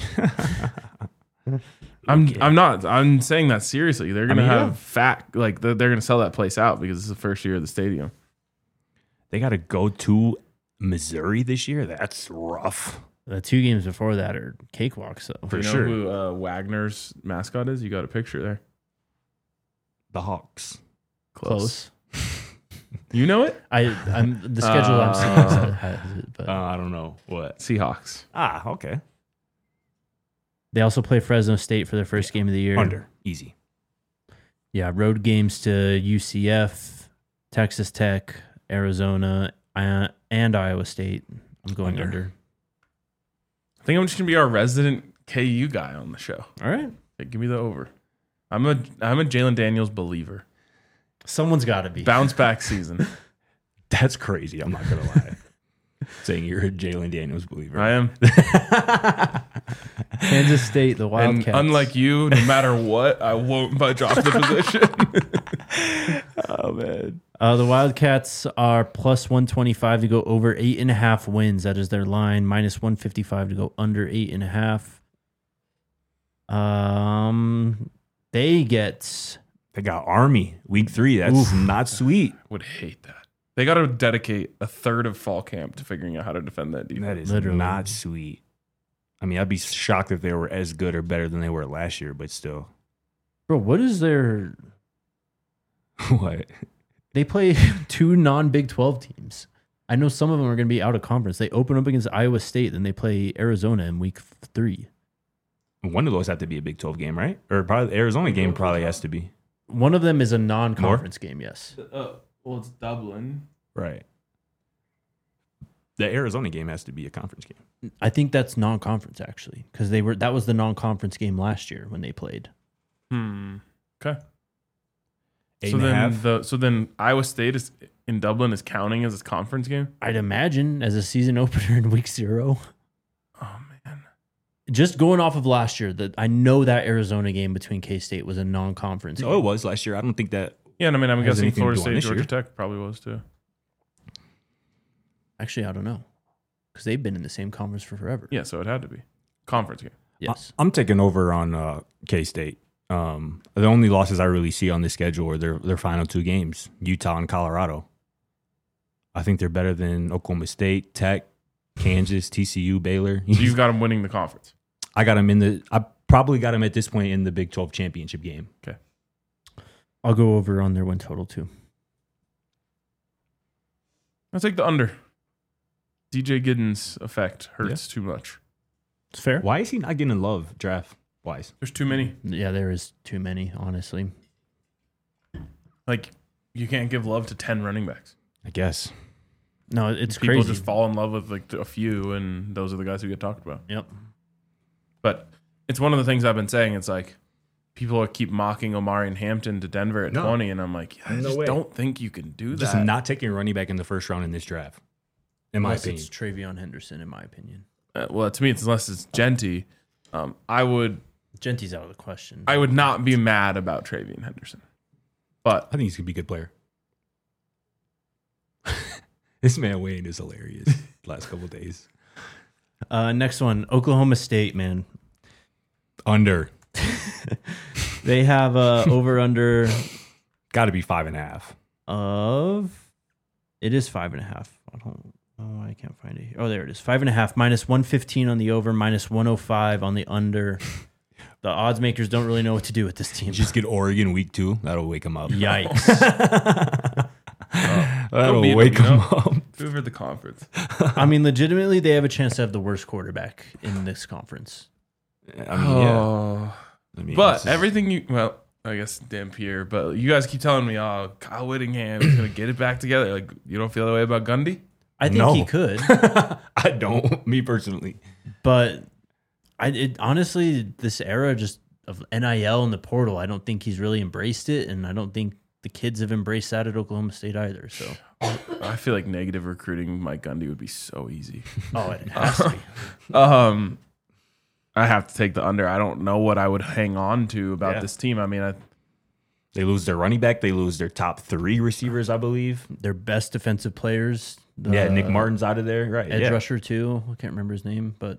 I'm saying that seriously. They're gonna mean, have they're gonna sell that place out because it's the first year of the stadium. They got to go to Missouri this year. That's rough. The 2 games before that are cakewalks, though. For You know sure. who Wagner's mascot is? You got a picture there. The Hawks. Close. You know it? I'm the schedule I'm seeing has it, but I don't know what. Seahawks. Okay. they also play Fresno State for their first game of the year. Under. Easy. Yeah, road games to UCF, Texas Tech, Arizona, and Iowa State. I'm going under. I think I'm just gonna be our resident KU guy on the show. All right. Hey, give me the over. I'm a Jalen Daniels believer. Someone's got to be. Bounce back season. That's crazy. I'm not going to lie. Saying you're a Jalen Daniels believer. I am. Kansas State, the And Wildcats. unlike you, no matter what, I won't budge off the position. Oh, man. The Wildcats are plus 125 to go over 8.5 wins. That is their line. Minus 155 to go under 8.5. They get They got Army week 3. That's not sweet. Would hate that. They got to dedicate a third of fall camp to figuring out how to defend that defense. That is Literally. not sweet. I mean, I'd be shocked if they were as good or better than they were last year, but still. Bro, what is their... What? They play 2 non-Big 12 teams. I know some of them are going to be out of conference. They open up against Iowa State, then they play Arizona in week 3. One of those have to be a Big 12 game, right? Or probably the Arizona game probably has to be. One of them is a non-conference game, yes. Well, it's Dublin. Right. The Arizona game has to be a conference game. I think that's non-conference actually, because that was the non-conference game last year when they played. Okay. 8.5. So then Iowa State is in Dublin is counting as a conference game. I'd imagine as a season opener in week 0. Oh man. Just going off of last year, that I know that Arizona game between K-State was a non-conference No, game. it was last year. I don't think that. Yeah, and I mean, I'm Has guessing anything to Florida do on State, this Georgia year? Tech probably was too. Actually, I don't know, because they've been in the same conference for forever. Yeah, so it had to be conference game. Yes. I'm taking over on K-State. The only losses I really see on the schedule are their final 2 games, Utah and Colorado. I think they're better than Oklahoma State, Tech, Kansas, TCU, Baylor. So you've got them winning the conference. I probably got them at this point in the Big 12 championship game. Okay. I'll go over on their win total too. I'll take the under. DJ Giddens effect hurts too much. It's fair. Why is he not getting love draft wise? There's too many. Yeah, there is too many, honestly. Like, you can't give love to 10 running backs. I guess. No, it's People crazy. just fall in love with like a few, and those are the guys who get talked about. Yep. But it's one of the things I've been saying. It's like people keep mocking Omarion Hampton to Denver at 20, and I'm like, I No just way. don't think you can do that. Just not taking a running back in the first round in this draft, in my Unless opinion. it's Travion Henderson, in my opinion. Well, to me, it's unless it's Genty. I would Genty's out of the question. not be mad about Travion Henderson, but I think he's going to be a good player. This man Wayne is hilarious the last couple of days. Next one, Oklahoma State, man. Under. They have over-under Got to be 5.5. of... It is 5.5. I don't know why I can't find it here. Oh, there it is. 5.5, minus 115 on the over, minus 105 on the under. The odds makers don't really know what to do with this team. Just get Oregon week 2. That'll wake him up. Yikes. That'll beat 'em, wake you him know? up. over the conference. I mean, legitimately, they have a chance to have the worst quarterback in this conference. I mean, yeah. I mean, But this is- everything you, well, I guess Dampier, but you guys keep telling me, oh, Kyle Whittingham is going to get it back together. Like, you don't feel that way about Gundy? I think No. he could, I don't, me personally. but honestly, this era just of NIL and the portal, I don't think he's really embraced it, and I don't think the kids have embraced that at Oklahoma State either. So, I feel like negative recruiting Mike Gundy would be so easy. oh, it has to be. I have to take the under. I don't know what I would hang on to about Yeah. this team. I mean, They lose their running back. They lose their top 3 receivers, I believe. Their best defensive players. Yeah, Nick Martin's out of there. Right. Edge Yeah. rusher too. I can't remember his name, but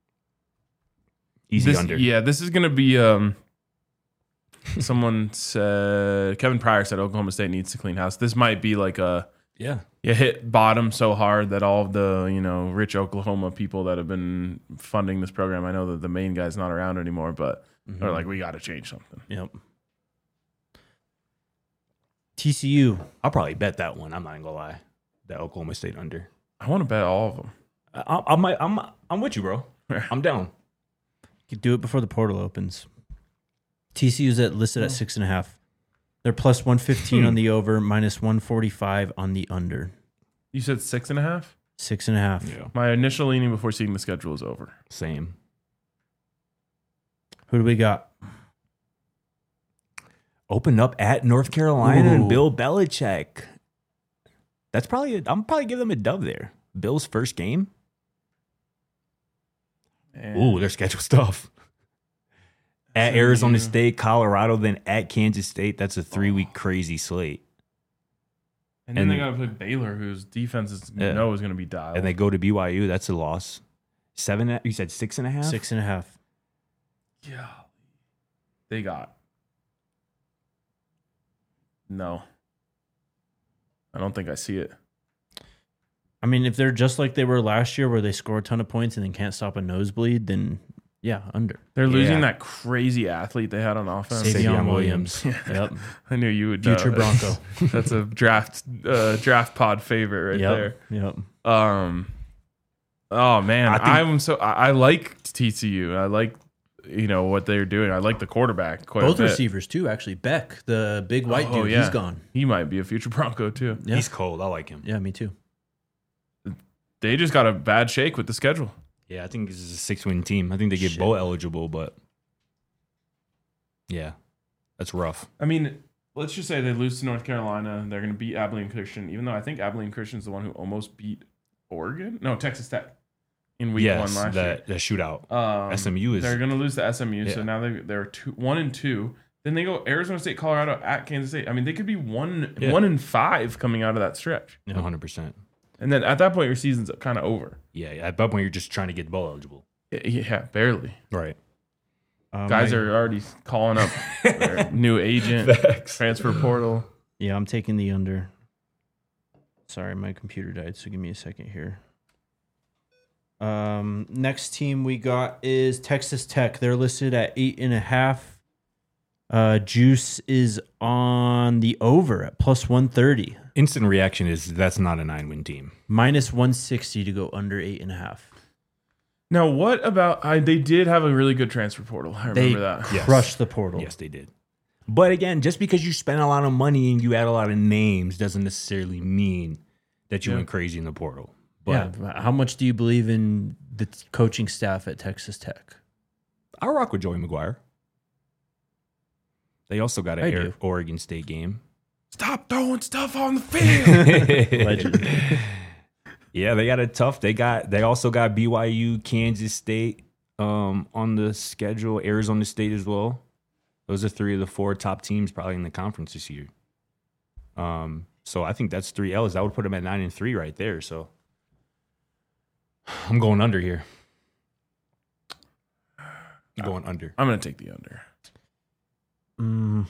Easy this, under. yeah, this is going to be. Someone said Kevin Pryor said Oklahoma State needs to clean house. This might be like Yeah. you hit bottom so hard that all of the rich Oklahoma people that have been funding this program. I know that the main guy's not around anymore, but they're like, we got to change something. yep. TCU. I'll probably bet that one. I'm not going to lie. That Oklahoma State under. I want to bet all of them. I'm with you, bro. I'm down. You could do it before the portal opens. TCU's listed at 6.5. They're plus 115 on the over, minus 145 on the under. You said 6.5. 6.5. Yeah. My initial leaning before seeing the schedule is over. Same. Who do we got? Open up at North Carolina and Ooh. Bill Belichick. That's probably I'm probably give them a dub there. Bill's first game. And Ooh, their schedule stuff. At SMU. Arizona State, Colorado, then at Kansas State. That's a 3-week crazy slate. And then and- they got to play Baylor, whose defense is Yeah. is going to be dialed. And they go to BYU. That's a loss. 7. You said 6.5. 6.5. yeah, they got no. I don't think I see it. I mean, if they're just like they were last year, where they score a ton of points and then can't stop a nosebleed, then yeah, under. They're losing Yeah. that crazy athlete they had on offense. Savion Williams. Yep. I knew you would. Future Bronco. That's a draft pod favorite right there. Yep. Oh man, I think- I like TCU. I like what they're doing. I like the quarterback quite Both a bit. receivers too, actually. Beck, the big white Oh, dude, yeah. he's gone. He might be a future Bronco too. Yeah. He's cold. I like him. Yeah, me too. They just got a bad shake with the schedule. Yeah, I think this is a 6-win team. I think they get Shit. bowl eligible, but yeah, that's rough. I mean, let's just say they lose to North Carolina. They're going to beat Abilene Christian, even though I think Abilene Christian is the one who almost beat Oregon. No, Texas Tech in week one last year. that shootout. SMU is- They're going to lose to SMU, so Yeah. now they're 1-2. Then they go Arizona State, Colorado, at Kansas State. I mean, they could be 1-5 coming out of that stretch. 100%. And then at that point, your season's kind of over. Yeah, at that point you're just trying to get bowl eligible. Yeah, barely. Right. Guys are already calling up their new agent, transfer portal. Yeah, I'm taking the under. Sorry, my computer died, so give me a second here. Next team we got is Texas Tech. They're listed at 8.5. Juice is on the over at plus 130. Instant reaction is that's not a 9-win team. Minus 160 to go under 8.5. Now, what about they did have a really good transfer portal. I They remember that. Yes. crushed the portal. Yes, they did. But again, just because you spend a lot of money and you add a lot of names doesn't necessarily mean that you went crazy in the portal. But Yeah. How much do you believe in the coaching staff at Texas Tech? I rock with Joey McGuire. They also got I an do. Oregon State game. Stop throwing stuff on the field. Legend. Yeah, they got it tough. They also got BYU, Kansas State on the schedule, Arizona State as well. Those are 3 of the 4 top teams probably in the conference this year. So I think that's 3 L's. That would put them at 9-3 right there. So I'm going under here. Going under. I'm going to take the under. Mm,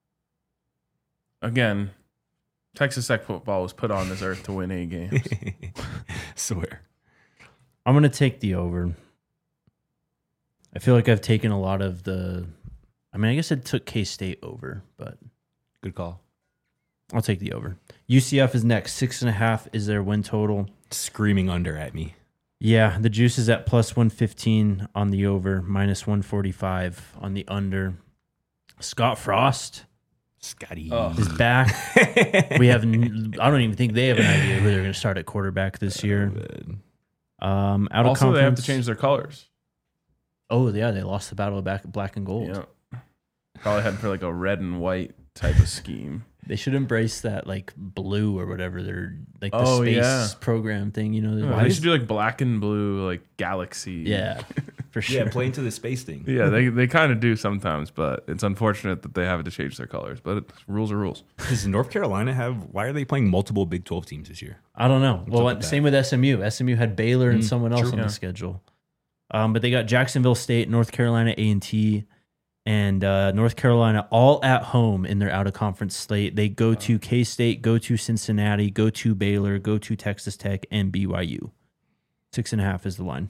Again, Texas Tech football was put on this earth to win 8 games. Swear. I'm going to take the over. I feel like I've taken a lot of the... I mean, I guess it took K-State over, but Good call. I'll take the over. UCF is next. 6.5 is their win total. Screaming under at me. Yeah, the juice is at plus 115 on the over, minus 145 on the under. Scott Frost Scotty. is back. We have, I don't even think they have an idea who they're going to start at quarterback this year. Out of Also, conference. they have to change their colors. Oh, yeah, they lost the battle of black and gold. Yeah. Probably heading for like a red and white type of scheme. They should embrace that like blue or whatever. They're like the Oh, space yeah. program thing, you know? They should do like black and blue, like galaxy. Yeah, for sure. Yeah, play into the space thing. Yeah, they kind of do sometimes, but it's unfortunate that they have to change their colors. But rules are rules. Does North Carolina why are they playing multiple Big 12 teams this year? I don't know. up Well, with same with SMU. SMU had Baylor and someone else true. on Yeah. the schedule. But they got Jacksonville State, North Carolina A&T, and North Carolina all at home in their out-of-conference slate. They go to K-State, go to Cincinnati, go to Baylor, go to Texas Tech, and BYU. 6.5 is the line.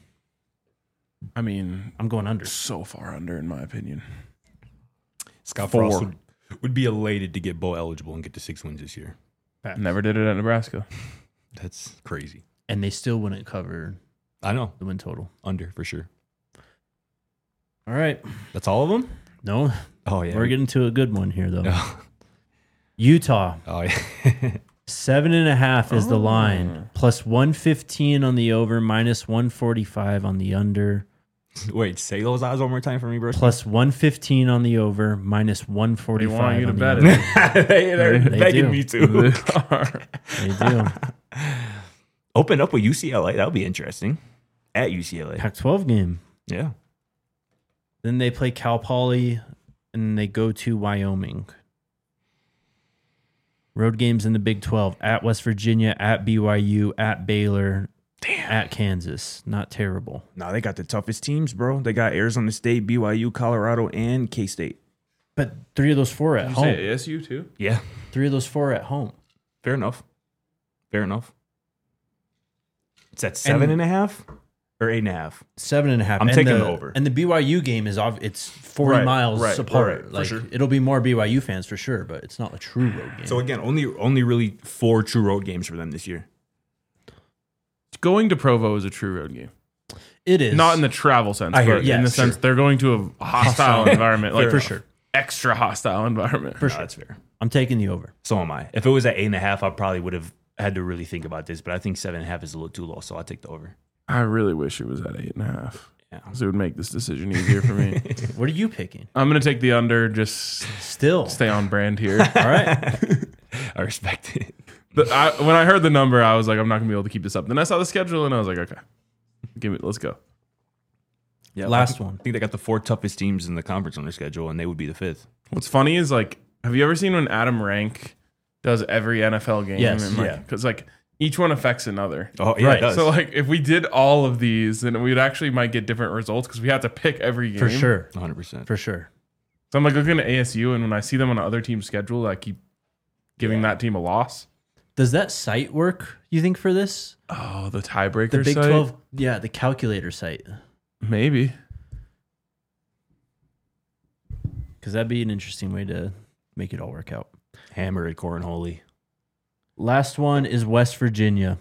I mean, I'm going under. so far under, in my opinion. Scott 4. Frost would be elated to get bowl eligible and get to 6 wins this year. Never did it at Nebraska. That's crazy. And they still wouldn't cover I know. the win total. Under for sure. All right. That's all of them? No, Oh, yeah. we're getting to a good one here, though. Oh, Utah. yeah. 7.5 is the line. Plus 115 on the over, minus 145 on the under. Wait, say those odds one more time for me, bro. Plus 115 on the over, minus They 145 want you to on the bet under. They're They begging do. me to. They do. Open up with UCLA. That would be interesting. At UCLA. Pac-12 game. Yeah. Then they play Cal Poly, and they go to Wyoming. Road games in the Big 12. At West Virginia, at BYU, at Baylor, at Kansas. Not terrible. No, they got the toughest teams, bro. They got Arizona State, BYU, Colorado, and K-State. But 3 of those 4 at Did you home. say ASU too? Yeah. 3 of those 4 at home. Fair enough. Fair enough. It's at 7.5 or 8.5. 7.5. I'm And taking the over. And the BYU game is it's 40 Right, miles right, apart. for Like sure. it'll be more BYU fans for sure, but it's not a true road game. So again, only really 4 true road games for them this year. Going to Provo is a true road game. it is Not in the travel sense, I hear but you. in Yeah, the sense they're going to a hostile environment, like for sure. extra hostile environment. For No, sure. that's fair. I'm taking the over. So am I. If it was at 8.5, I probably would have had to really think about this, but I think 7.5 is a little too low, so I'll take the over. I really wish it was at 8.5. Yeah. Because it would make this decision easier for me. What are you picking? I'm going to take the under, just Still. stay on brand here. All right. I respect it. When I heard the number, I was like, I'm not going to be able to keep this up. Then I saw the schedule and I was like, okay, let's go. Yeah, Last one. I think they got the 4 toughest teams in the conference on their schedule, and they would be the 5th. What's funny is like, have you ever seen when Adam Rank does every NFL game? Yes. And, like, Yeah. because like each one affects another. Oh, yeah, Right. it does. So like if we did all of these, then we'd actually might get different results because we have to pick every game. For sure. 100%. For sure. So I'm like looking at ASU, and when I see them on other team's schedule, I keep giving that team a loss. Does that site work, you think, for this? Oh, the tiebreaker The Big site? 12, yeah, the calculator site. Maybe. Because that'd be an interesting way to make it all work out. Hammer it, Cornholy. Last one is West Virginia.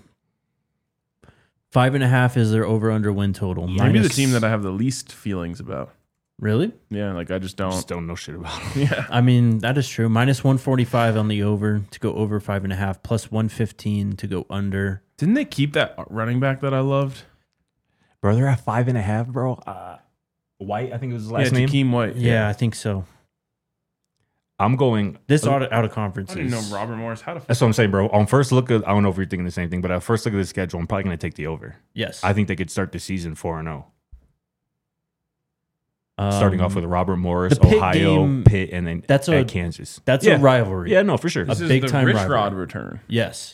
5.5 is their over-under win total. Maybe the Minus- team that I have the least feelings about. Really? Yeah, like I just don't. Just don't know shit about them. Yeah. I mean, that is true. Minus 145 on the over to go over 5.5, plus 115 to go under. Didn't they keep that running back that I loved? Bro, they're at 5.5, bro. White, I think it was his last name. Jakeem White. Yeah, I think so. I'm going. This out of conference I didn't know is Robert Morris had a. That's what I'm saying, bro. On first look at, I don't know if you're thinking the same thing, but at first look at the schedule, I'm probably going to take the over. yes. I think they could start the season 4-0. Starting off with Robert Morris, the Pitt Ohio, game, Pitt, and then that's at a- Kansas. that's Yeah. a rivalry. Yeah, no, for sure. This a is big the time Rich rivalry. Rod return. Yes,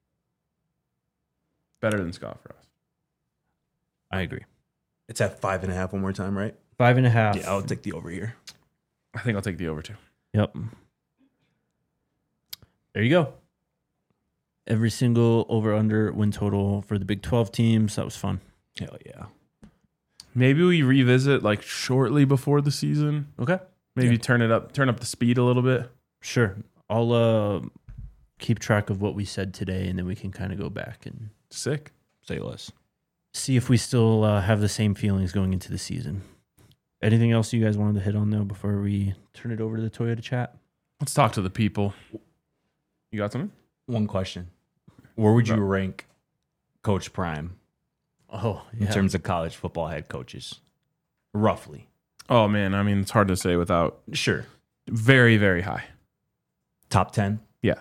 Better than Scott Frost. I agree. It's at 5.5 one more time, right? 5.5. Yeah, I'll take the over here. I think I'll take the over too. Yep. There you go. Every single over-under win total for the Big 12 teams. That was fun. Hell yeah. Maybe we revisit like shortly before the season. Okay. Maybe turn up the speed a little bit. Sure. I'll keep track of what we said today, and then we can kind of go back and Sick. Say less. see if we still have the same feelings going into the season. Anything else you guys wanted to hit on, though, before we turn it over to the Toyota chat? Let's talk to the people. You got something? One question. Where would you No. rank Coach Prime Oh, in terms of college football head coaches? Roughly. Oh man, I mean it's hard to say without Sure. very, very high. Top 10? Yeah.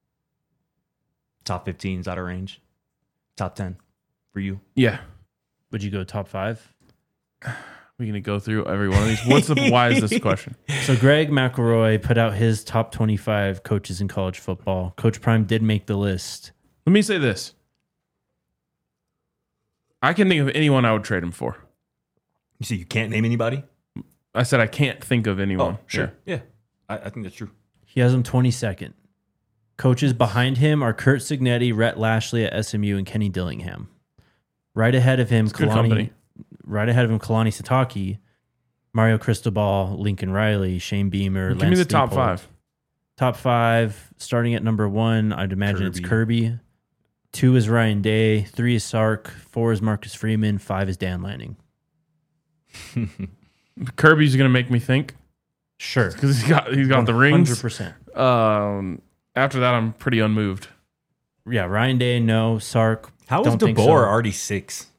Top 15 is out of range? Top 10 for you? Yeah. Would you go top 5? We're gonna go through every one of these. Why is this question? So Greg McElroy put out his top 25 coaches in college football. Coach Prime did make the list. Let me say this. I can think of anyone I would trade him for. You say you can't name anybody? I said I can't think of anyone. Yeah. I think that's true. He has him 22nd. Coaches behind him are Kurt Signetti, Rhett Lashley at SMU, and Kenny Dillingham. Right ahead of him, It's good company. Kalani Sitake, Mario Cristobal, Lincoln Riley, Shane Beamer. Give me Lance the top Leipold. 5. Top 5, starting at number 1, I'd imagine it's Kirby. 2 is Ryan Day. 3 is Sark. 4 is Marcus Freeman. 5 is Dan Lanning. Kirby's gonna make me think Sure. because he's got the rings. 100%. After that, I'm pretty unmoved. Yeah, Ryan Day, no. Sark, How is don't think DeBoer so. already 6?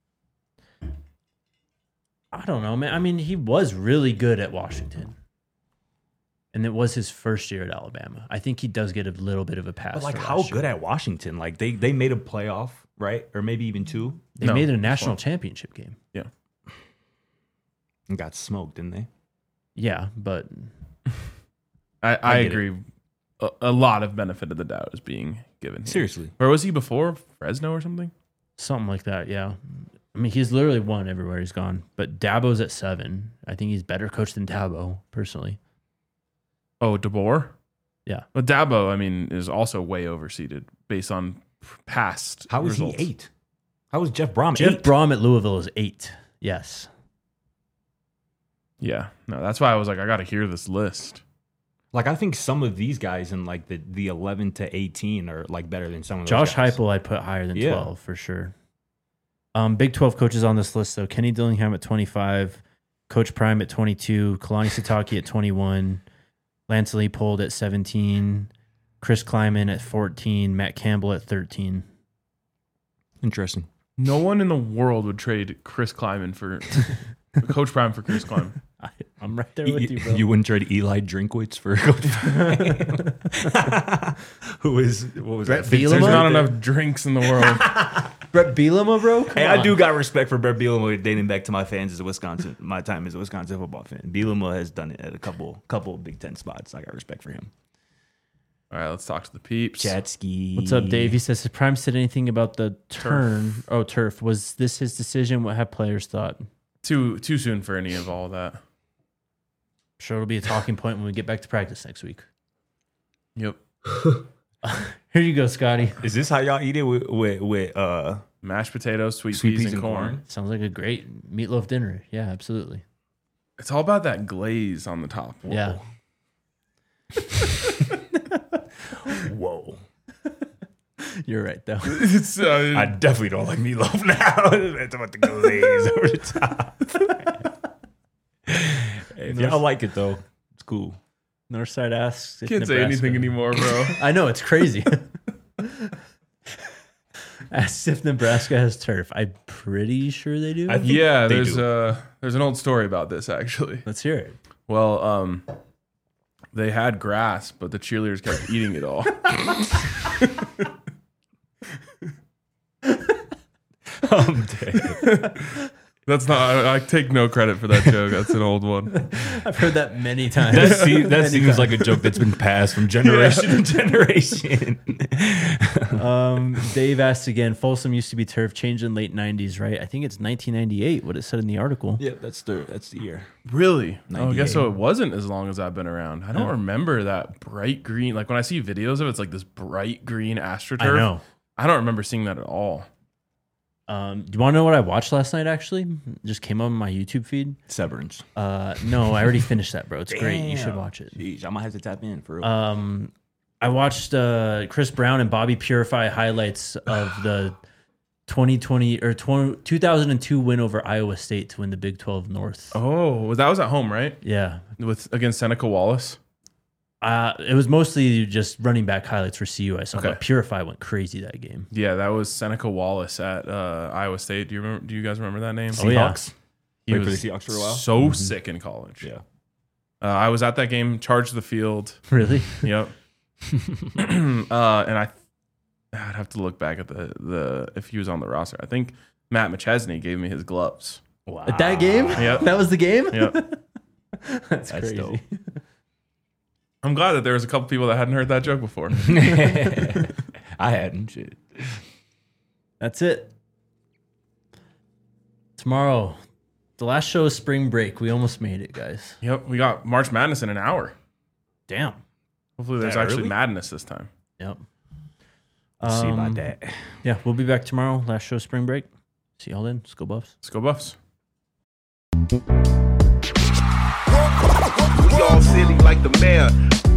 I don't know, man. I mean, he was really good at Washington. And it was his first year at Alabama. I think he does get a little bit of a pass. But like, for how last year. good at Washington? Like, they made a playoff, right? Or maybe even 2 They No, made it a it's national fine. championship game. Yeah. and got smoked, didn't they? Yeah, but I get it. agree. A lot of benefit of the doubt is being given here. Seriously. Where was he before? Fresno or something? something like that, yeah. I mean, he's literally won everywhere he's gone. But Dabo's at 7. I think he's better coach than Dabo, personally. Oh, DeBoer? Yeah. But Dabo, I mean, is also way overseeded based on past How is results. he 8? How was Jeff Brom? Jeff 8? Brom at Louisville is 8. Yes. Yeah. No, that's why I was like, I got to hear this list. Like, I think some of these guys in like the 11 to 18 are like better than some of those Josh guys. Heupel I'd put higher than Yeah. 12 for sure. Big 12 coaches on this list, though. Kenny Dillingham at 25, Coach Prime at 22, Kalani Sitake at 21, Lance Leipold at 17, Chris Kleiman at 14, Matt Campbell at 13. Interesting. No one in the world would trade Chris Kleiman for Coach Prime for Chris Kleiman. I'm right there with you, bro. You wouldn't trade Eli Drinkwitz for Coach Prime? Who is, what was Brett that? Bielema? There's Right not there. enough drinks in the world. Brett Bielema, bro? Come Hey, on. I do got respect for Brett Bielema dating back to my time as a Wisconsin football fan. Bielema has done it at a couple of Big Ten spots. I got respect for him. All right, let's talk to the peeps. Chatsky. What's up, Dave? He says, has Prime said anything about the turn? Oh, turf. Was this his decision? What have players thought? Too soon for any of all that. Sure, it'll be a talking point when we get back to practice next week. Yep. Here you go, Scotty. Is this how y'all eat it with Mashed potatoes, sweet Sweet peas, and corn. Sounds like a great meatloaf dinner. Yeah, absolutely. It's all about that glaze on the top. Yeah. Whoa. You're right, though. It's, I definitely don't like meatloaf now. It's about the glaze over the top. Hey, if y'all like it though, it's cool. Northside asks if can't say Nebraska- anything anymore, bro. I know, it's crazy. Asks if Nebraska has turf. I'm pretty sure they do. I think Yeah, they there's do. there's an old story about this actually. Let's hear it. Well, they had grass, but the cheerleaders kept eating it all. I'm dead. That's not. I take no credit for that joke. That's an old one. I've heard that many times. That Many seems times. like a joke that's been passed from generation to generation. Dave asks again, Folsom used to be turf, changed in late 90s, right? I think it's 1998, what it said in the article. Yeah, that's the year. Really? Oh, I guess 98. so. It wasn't as long as I've been around. I don't remember that bright green. Like when I see videos of it, it's like this bright green AstroTurf. I know. I don't remember seeing that at all. Do you want to know what I watched last night, actually? Just came up on my YouTube feed. Severance. No, I already finished that, bro. It's great. You should watch it. Jeez, I might have to tap in for real. I watched Chris Brown and Bobby Purify highlights of the 2002 win over Iowa State to win the Big 12 North. Oh, that was at home, right? Yeah. Against Seneca Wallace. It was mostly just running back highlights for CU. I saw, Okay. but Purify went crazy that game. Yeah, that was Seneca Wallace at Iowa State. Do you guys remember that name? Oh, yeah. Seahawks. He Played for was the Seahawks for a while. so sick in college. Yeah. I was at that game, charged the field. Really? Yep. And I'd have to look back at the if he was on the roster. I think Matt McChesney gave me his gloves. Wow. At that game? Yep. That was the game? Yep. That's That's crazy. dope. I'm glad that there was a couple people that hadn't heard that joke before. I hadn't. Shit. That's it. Tomorrow, the last show is spring break. We almost made it, guys. Yep, we got March Madness in an hour. Damn. Hopefully there's That actually early? madness this time. Yep. See about that. Yeah, we'll be back tomorrow. Last show, spring break. See y'all then. Let's go Buffs. Let's go Buffs. We all silly like the mayor.